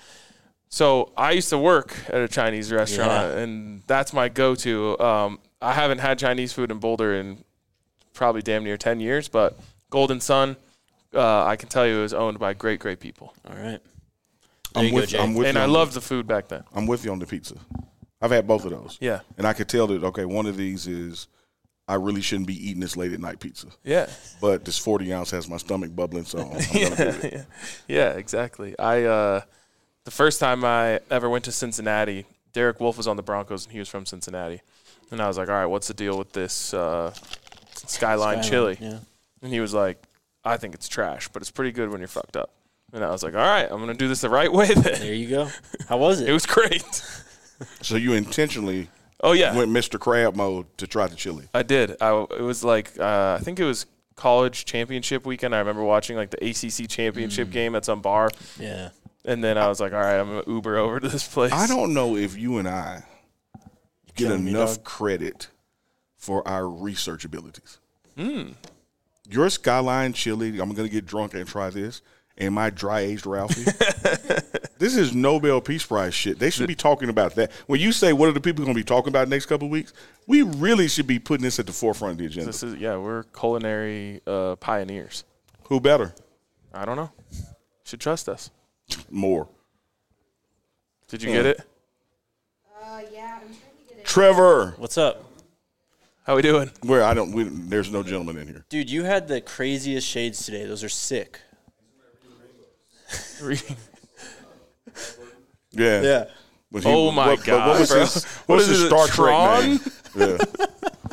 So I used to work at a Chinese restaurant, Yeah. and that's my go-to. Um, I haven't had Chinese food in Boulder in probably damn near ten years, but Golden Sun, uh, I can tell you, is owned by great, great people. All right. There I'm you with, go, Jay. I'm with And you I on loved the food back then. I'm with you on the pizza. I've had both of those. Yeah. And I could tell that, okay, one of these is I really shouldn't be eating this late at night pizza. Yeah. But this forty ounce has my stomach bubbling, so I'm going to do it. yeah. yeah, exactly. I uh, the first time I ever went to Cincinnati, Derek Wolf was on the Broncos, and he was from Cincinnati. And I was like, all right, what's the deal with this uh, Skyline, Skyline, chili? yeah. And he was like, I think it's trash, but it's pretty good when you're fucked up. And I was like, all right, I'm going to do this the right way then. There you go. How was it? It was great. So you intentionally Oh, yeah. went Mister Crab mode to try the chili. I did. I, it was like, uh, I think it was college championship weekend. I remember watching like the A C C championship Mm. game at some bar. Yeah. And then I was like, all right, I'm going to Uber over to this place. I don't know if you and I get killing me, enough dog. credit for our research abilities. Mm. Your Skyline chili, I'm going to get drunk and try this, and my dry-aged Ralphie. This is Nobel Peace Prize shit. They should be talking about that. When you say what are the people going to be talking about next couple of weeks, we really should be putting this at the forefront of the agenda. This is yeah, we're culinary uh, pioneers. Who better? I don't know. Should trust us. More. Did you Yeah. get it? Uh, yeah, I'm trying to get it. Trevor. What's up? How we doing? Where I don't. We, there's no gentleman in here. Dude, you had the craziest shades today. Those are sick. Yeah. Yeah. But Oh my what, but God, What was bro. his, What what's is his it, Star Tron? Trek name? Yeah.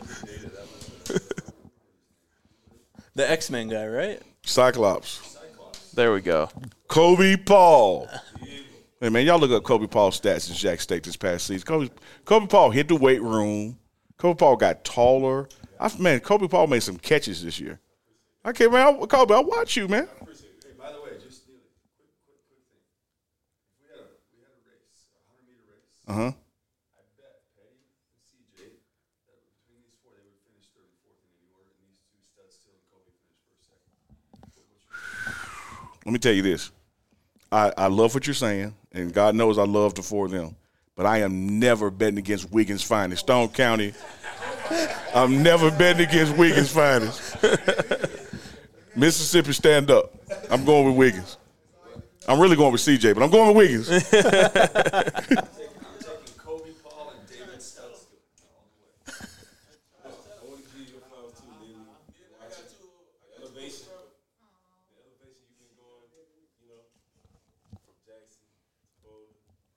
The X-Men guy, right? Cyclops. There we go. Kobe Paul. Hey, man, y'all look up Kobe Paul's stats in Jack State this past season. Kobe, Kobe Paul hit the weight room. Kobe Paul got taller. I, man, Kobe Paul made some catches this year. I can't, man. I, Kobe, I watch you, man. Hey, by the way, just quick, quick, quick thing. If we had a we had a race, a hundred meter race. Uh huh. I bet Petty and C J that between these four they would finish third and fourth in any order, and these two studs still and Kobe finish first, second. Let me tell you this. I, I love what you're saying, and God knows I love the four of them. But I am never betting against Wiggins Finest. Stone County, I'm never betting against Wiggins Finest. Mississippi, stand up. I'm going with Wiggins. I'm really going with C J, but I'm going with Wiggins. I'm taking Kobe Paul and David Stutz all the way. I want to give you your flowers too, Lily. Watch it. Elevation. The elevation you've been going, you know, from Jackson to Boulder.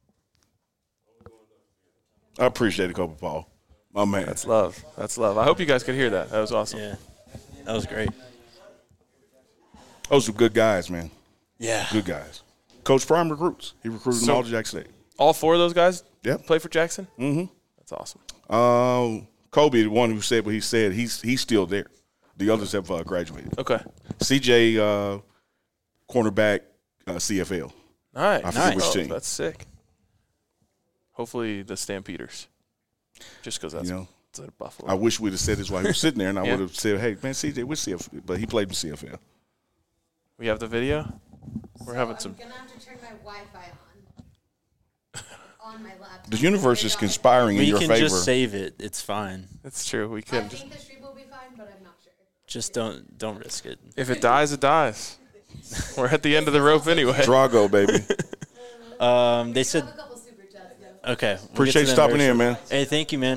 Only going up. I appreciate it, Kobe Paul. My man. That's love. That's love. I hope you guys could hear that. That was awesome. Yeah, that was great. Those are good guys, man. Yeah. Good guys. Coach Prime recruits. He recruited So- them all to Jackson State. All four of those guys Yep. play for Jackson? Mm-hmm. That's awesome. Um, Kobe, the one who said what he said, he's he's still there. The others have uh, graduated. Okay. C J, uh, cornerback, uh, C F L. Nice. I forget which Oh, team. That's sick. Hopefully the Stampeders. Just because that's You know, it's at Buffalo. I wish we'd have said this while he was sitting there, and I Yeah. would have said, "Hey, man, C J, what's C F L?" But he played in C F L. we have the video. We're having some. I'm gonna have to turn my Wi-Fi on on my laptop. The universe is Turn it on. conspiring in We your can favor. just save it. It's fine. It's true. We I could. think the stream will be fine, but I'm not sure. Just don't don't risk it. If it dies, it dies. We're at the end of the rope anyway. Drago, baby. Um, they I said have a couple super chats though. okay. we'll get Appreciate to you them stopping very in, man. Hey, thank you, man.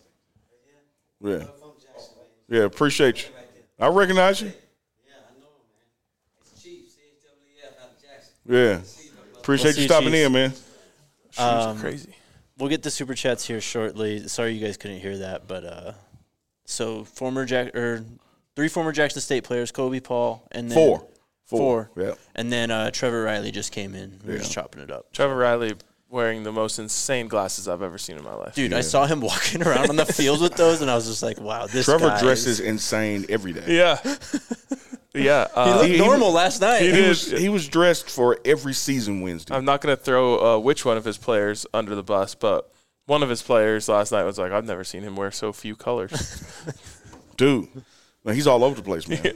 Yeah. Yeah, appreciate you. I recognize you. Yeah, I know, man. It's Chief, C H W F out of Jackson. Yeah. Appreciate We'll see you you, stopping Chiefs. in, man. She's Um, crazy. We'll get the super chats here shortly. Sorry you guys couldn't hear that, but uh, so former Jack or three former Jackson State players, Kobe Paul, and then Four. four, Yeah. and then uh, Trevor Riley just came in. We were Yeah. just chopping it up. Trevor Riley wearing the most insane glasses I've ever seen in my life. Dude, I saw him walking around on the field with those, and I was just like, "Wow, this Trevor guy dresses is- insane every day. Yeah. yeah. He Uh, looked he- normal last night. He did. was he was dressed for every season Wednesday. I'm not going to throw uh, which one of his players under the bus, but one of his players last night was like, I've never seen him wear so few colors. Dude, man, he's all over the place, man.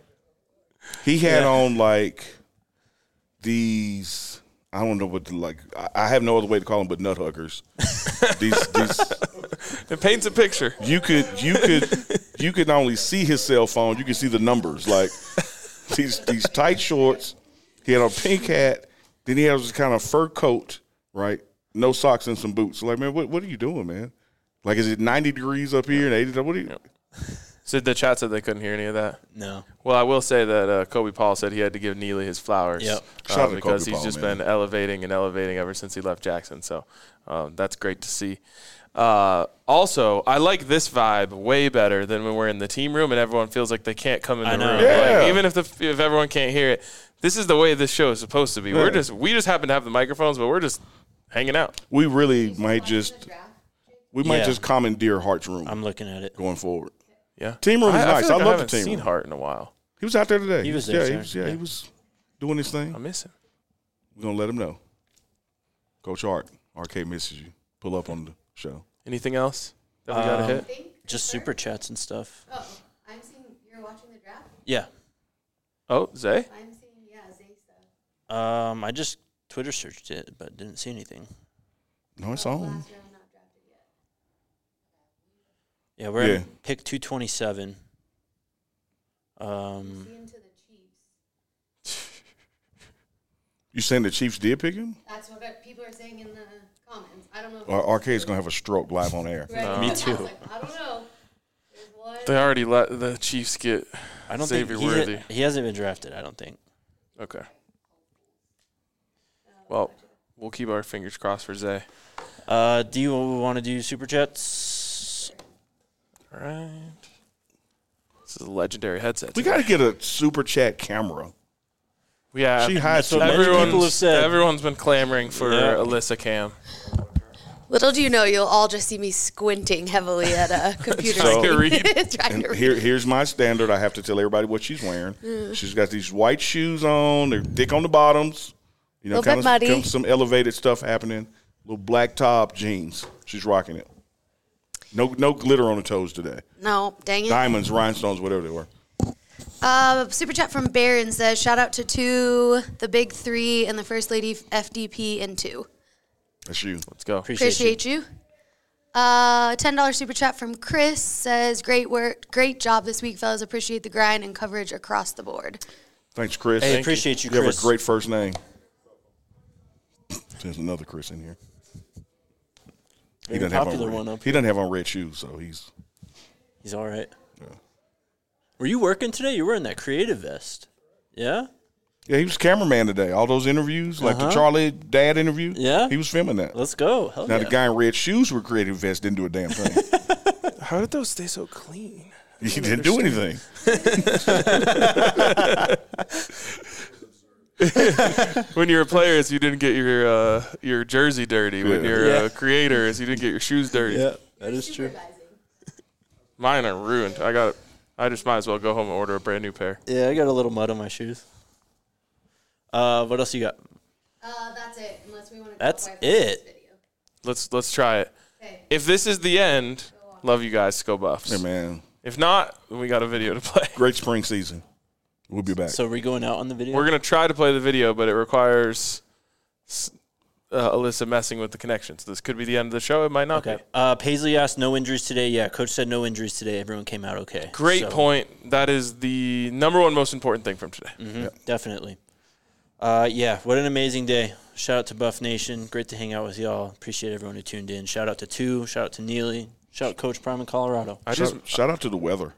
He had on like these. I don't know what to like. I- I have no other way to call them, but nut huggers. these, these. It paints a picture. You could, you could, you could not only see his cell phone, you could see the numbers. Like these, these tight shorts. He had a pink hat. Then he had this kind of fur coat, right? No socks and some boots. Like, man, what, what are you doing, man? Like, is it ninety degrees up here and eighty? What are you? So the chat said they couldn't hear any of that. No. Well, I will say that uh, Kobe Paul said he had to give Neely his flowers. Yep. uh, Shout out to because Kobe he's Paul, just man. been elevating and elevating ever since he left Jackson. So um, that's great to see. Uh, also, I like this vibe way better than when we're in the team room and everyone feels like they can't come in the I know. room. Yeah. Like, even if the if everyone can't hear it, this is the way this show is supposed to be. We're Yeah. just we just happen to have the microphones, but we're just hanging out. We really might just, The draft. we might Yeah. just commandeer Hart's room I'm looking at it. going forward. Yeah, Team room is I, nice. I, feel like I I, love haven't the team seen room. Hart in a while. He was out there today. He was yeah, there, he sir. was, yeah, Yeah. he was doing his thing. I miss him. We're gonna let him know. Coach Hart, R K misses you. Pull up on the show. Anything else that we got to Um, hit? Think? Just Sure. super chats and stuff. Oh, I'm seeing you're watching the draft. Yeah. Oh, Zay. I'm seeing yeah Zay stuff. Um, I just Twitter searched it, but didn't see anything. No, it's Oh, on. last round not drafted yet. Yeah, we're Yeah. at pick two twenty-seven. Um, See him to the Chiefs. You saying the Chiefs did pick him? That's what uh, people are saying in the comments. I don't know. If Or R K is gonna have a stroke live on air. Right. Me I was too. like, I don't know. There's one. They already let the Chiefs get. I don't Xavier think he, Worthy. he hasn't been drafted. I don't think. Okay. Well, we'll keep our fingers crossed for Zay. Uh, do you want to do super chats? All right. This is a legendary headset. We got to get a super chat camera. Yeah. She hides That's what many everyone's, people have said. everyone's been clamoring for Yeah. Alyssa Cam. Little do you know, you'll all just see me squinting heavily at a computer So- screen. Trying to read. Trying And to read. here, here's my standard. I have to tell everybody what she's wearing. She's got these white shoes on. They're thick on the bottoms. You know, Little kind bit of muddy. kind of some elevated stuff happening. Little black top jeans. She's rocking it. No, no glitter on the toes today. No, dang it. Diamonds, rhinestones, whatever they were. Uh, super chat from Baron says, shout out to two, the big three, and the First Lady F D P and two. That's you. Let's go. Appreciate, Appreciate you. you. Uh, ten dollars super chat from Chris says, great work, great job this week, fellas. Appreciate the grind and coverage across the board. Thanks, Chris. Hey, Thank appreciate you, you. You Chris. have a great first name. There's another Chris in here. He Very doesn't have popular on one red, up He doesn't have on red shoes, so he's. He's all right. Yeah. Were you working today? You were in that creative vest. Yeah? Yeah, he was cameraman today. All those interviews, like Uh-huh. the Charlie Dad interview. Yeah. He was filming that. Let's go. Hell Now yeah. the guy in red shoes with creative vest didn't do a damn thing. How did those stay so clean? He didn't do anything. When you're players, you didn't get your uh, your jersey dirty. When Yeah. you're Yeah. uh, creators, you didn't get your shoes dirty. Yeah, that is true. Mine are ruined. I got. I just might as well go home and order a brand new pair. Yeah, I got a little mud on my shoes. Uh, what else you got? Uh, that's it, unless we want to That's it. Let's let's try it. Okay. If this is the end, love you guys. Go Buffs. Hey, man. If not, then we got a video to play. Great spring season. We'll be back. So are we going out on the video? We're gonna try to play the video, but it requires uh, Alyssa messing with the connections. This could be the end of the show. It might not Okay. be. Uh, Paisley asked no injuries today. Yeah, coach said no injuries today. Everyone came out okay. Great So, point. That is the number one most important thing from today. mhm, Definitely. Uh, yeah, what an amazing day. Shout out to Buff Nation. Great to hang out with y'all. Appreciate everyone who tuned in. Shout out to Two. Shout out to Neely. Shout out Coach Prime in Colorado. I shout, just shout out to the weather.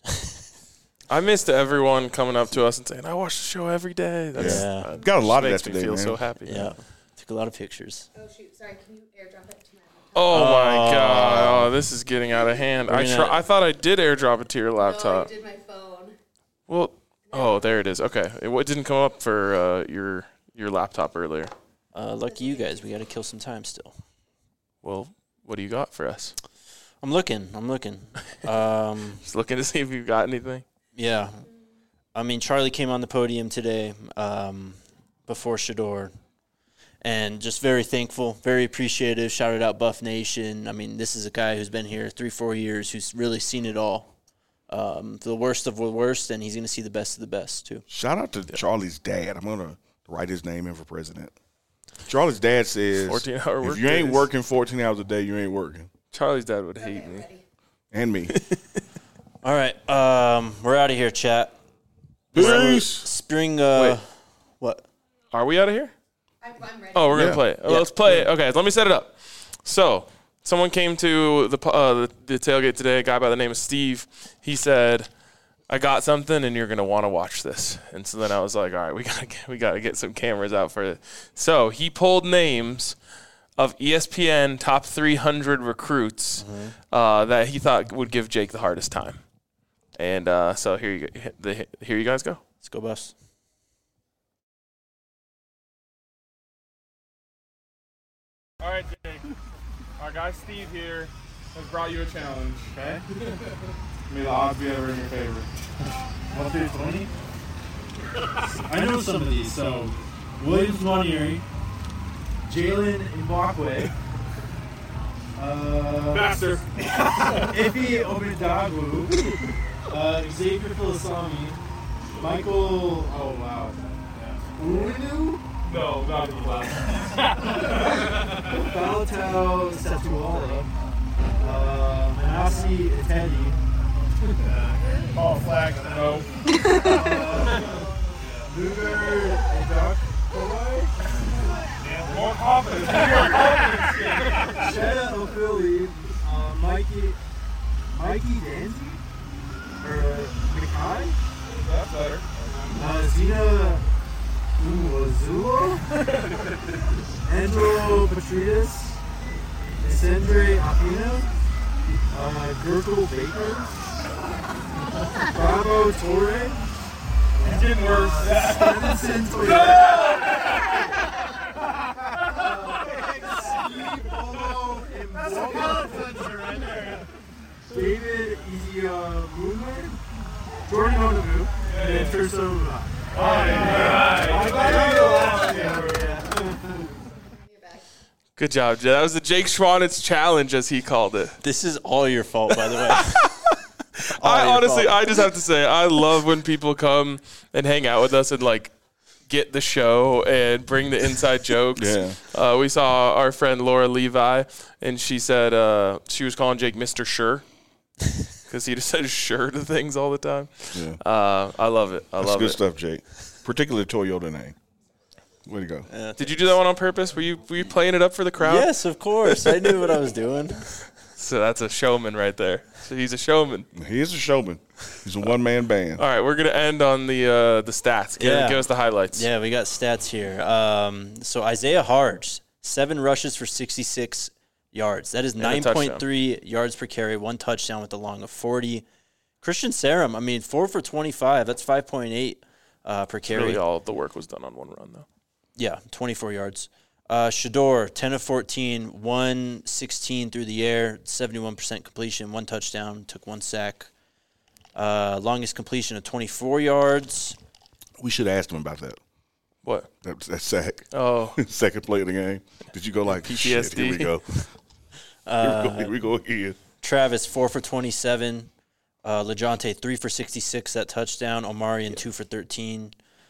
I missed everyone coming up to us and saying, "I watch the show every day." That's, Yeah. uh, Got a lot of makes that me today, feel man. so happy. Yeah. Took a lot of pictures. Oh, shoot. Sorry. Can you airdrop it to my laptop? Oh my Oh. god! Oh, this is getting out of hand. We're I gonna- try, I thought I did airdrop it to your No, laptop. I did my phone. Well, oh, there it is. Okay, it, it didn't come up for uh, your your laptop earlier. Uh, lucky you guys. We got to kill some time still. Well, what do you got for us? I'm looking. I'm looking. Um, Just looking to see if you got anything. yeah. I mean, Charlie came on the podium today um, before Shador. And just very thankful, very appreciative. Shouted out Buff Nation. I mean, this is a guy who's been here three, four years, who's really seen it all. Um, the worst of the worst, and he's going to see the best of the best, too. Shout out to Charlie's dad. I'm going to write his name in for president. Charlie's dad says, fourteen hour work if you ain't days. working fourteen hours a day, you ain't working. Charlie's dad would hate me. And me. All right. Um, we're out of here, chat. Peace. Spring, uh, Wait. what? Are we out of here? I'm, I'm ready. Oh, we're gonna Yeah. play it. Oh, Yeah. Let's play it. Okay, let me set it up. So, someone came to the uh, the, the tailgate today. A guy by the name of Steve. He said, "I got something, and you're gonna want to watch this." And so then I was like, "All right, we gotta get, we gotta get some cameras out for it." So he pulled names of E S P N top three hundred recruits uh, that he thought would give Jake the hardest time. And uh, so here you go, the, here you guys go. Let's go, Buffs. All right, Jake. Our guy Steve here has brought you a challenge, okay? May the odds be ever in your favor. What's it funny? I know some of these. So, Williams Monieri, Jalen Mbakwe, uh, Bastard. Ife Obedagwu, uh, Xavier Filasami, Michael. Oh wow. Unu, No, not the last. Balatao Satuala, uh, Manasi Etedi. Oh, flag. No. Luger Edok More confidence. Sheda O'Philly, uh, Mikey, Mikey Danzy, or Mikai, That's better. uh, Zena Uwazulo, Andrew Petridis, Isendre Aquino, uh, Gurkle Baker, Bravo Torre, It's getting worse. Stevenson Toyota. David Easy Jordan Onamu, and then Terso. Good job, Jay. That was the Jake Schwanitz challenge, as he called it. This is all your fault, by the way. I your honestly, fault. I just have to say, I love when people come and hang out with us and like get the show and bring the inside jokes. Yeah. Uh, we saw our friend Laura Levi, and she said uh, she was calling Jake Mister Sure because he just says sure to things all the time. Yeah. Uh, I love it. I That's love good it. stuff, Jake. Particularly Toyota name. Way to go. Uh, Did you do that one on purpose? Were you were you playing it up for the crowd? Yes, of course. I knew what I was doing. So that's a showman right there. So he's a showman. He is a showman. He's a one-man band. All right, we're gonna end on the uh, the stats. Give, Yeah. give us the highlights. Yeah, we got stats here. Um, so Isaiah Harge, seven rushes for sixty-six yards. That is a nine touchdown. point three yards per carry, one touchdown with a long of forty. Christian Sarum, I mean, four for twenty-five. That's five point eight uh, per carry. Really, all of the work was done on one run, though. Yeah, twenty-four yards. Uh, Shador, ten of fourteen, one sixteen through the air, seventy-one percent completion, one touchdown, took one sack. Uh, longest completion of twenty-four yards. We should have asked him about that. What? That, that sack. Oh, Second play of the game. Did you go like, P T S D? Shit, here we go. Uh, here, we go here we go again. Travis, four for twenty-seven. Uh, LeJounte, three for sixty-six, that touchdown. Omarion, two for thirteen.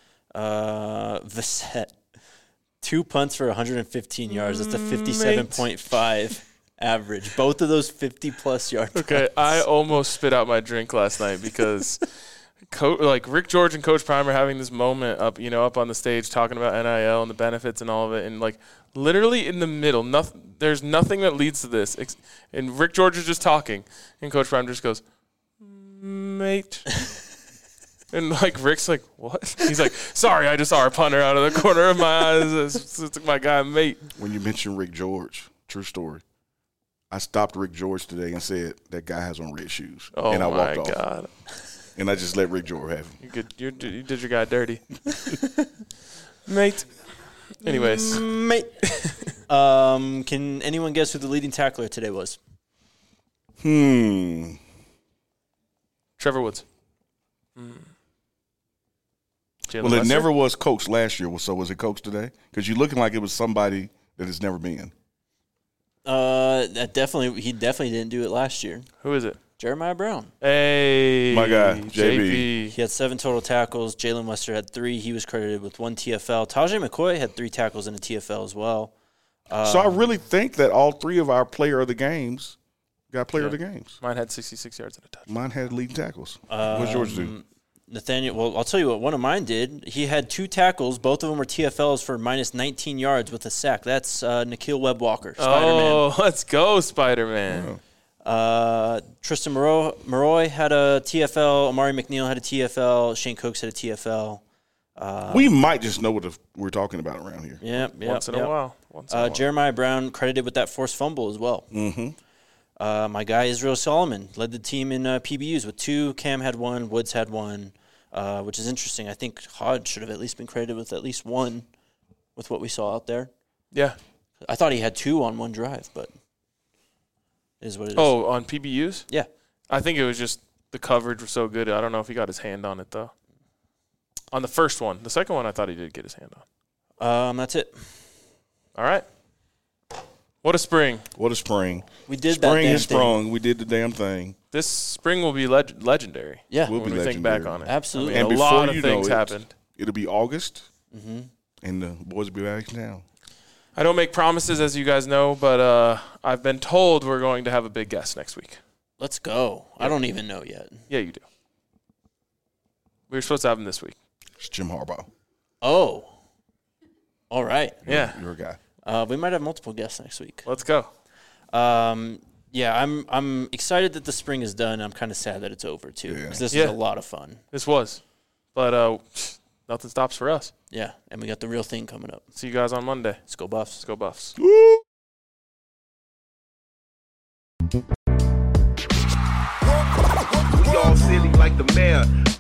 Uh, Visette, two punts for one hundred fifteen yards. That's a fifty-seven point five average. Both of those fifty-plus yard okay. punts. I almost spit out my drink last night because, Co- like Rick George and Coach Prime are having this moment up, you know, up on the stage talking about N I L and the benefits and all of it, and like literally in the middle, nothing. There's nothing that leads to this, ex- and Rick George is just talking, and Coach Prime just goes, "Mate." And, like, Rick's like, what? He's like, sorry, I just saw a punter out of the corner of my eyes. It's, it's my guy, mate. When you mentioned Rick George, true story, I stopped Rick George today and said, that guy has on red shoes. Oh, and I my walked God. off. And I just let Rick George have him. You, could, you, did, you did your guy dirty. Mate. Anyways. Mate. um, can anyone guess who the leading tackler today was? Hmm. Trevor Woods. Mm. Jalen Well, it Lester? never was Coach last year, so was it Coach today? Because you're looking like it was somebody that has never been. Uh, that definitely he definitely didn't do it last year. Who is it? Jeremiah Brown. Hey. My guy, J B. J He had seven total tackles. Jalen Wester had three. He was credited with one T F L. Tajay McCoy had three tackles in a T F L as well. Um, So I really think that all three of our player of the games got player of the games. Mine had sixty-six yards and a touch. Mine had leading tackles. Um, What's yours do? Nathaniel, well, I'll tell you what one of mine did. He had two tackles. Both of them were T F Ls for minus nineteen yards with a sack. That's uh, Nikhil Webb-Walker, Spider-Man. Oh, let's go, Spider-Man. Oh. Uh, Tristan Moro- Maroy had a T F L. Amari McNeil had a T F L. Shane Cooks had a T F L. Uh, we might just know what the, we're talking about around here. yeah, yeah, Once in yeah. a while. Once in a Uh, while. Jeremiah Brown credited with that forced fumble as well. Mm-hmm. Uh, my guy Israel Solomon led the team in uh, P B Us with two. Cam had one. Woods had one, uh, which is interesting. I think Hodge should have at least been credited with at least one with what we saw out there. Yeah. I thought he had two on one drive, but it is what it is. Oh, on P B Us? Yeah. I think it was just the coverage was so good. I don't know if he got his hand on it, though. On the first one. The second one, I thought he did get his hand on. Um, that's it. All right. What a spring. What a spring. We did that Spring damn has thing. sprung. We did the damn thing. This spring will be leg- legendary. Yeah. We'll when be we think back legendary. on it. Absolutely. I mean, And a before lot of you things know it, happened. It'll be August, Mm-hmm. and the boys will be back in town. I don't make promises, as you guys know, but uh, I've been told we're going to have a big guest next week. Let's go. I don't even know yet. Yeah, you do. We were supposed to have him this week. It's Jim Harbaugh. Oh. All right. Yeah. You're a guy. Uh, we might have multiple guests next week. Let's go. Um, yeah, I'm I'm excited that the spring is done. I'm kind of sad that it's over too, Yeah. because this Yeah. is a lot of fun. This was. But uh, nothing stops for us. Yeah, and we got the real thing coming up. See you guys on Monday. Let's go Buffs. Let's go Buffs. We all silly like the mayor.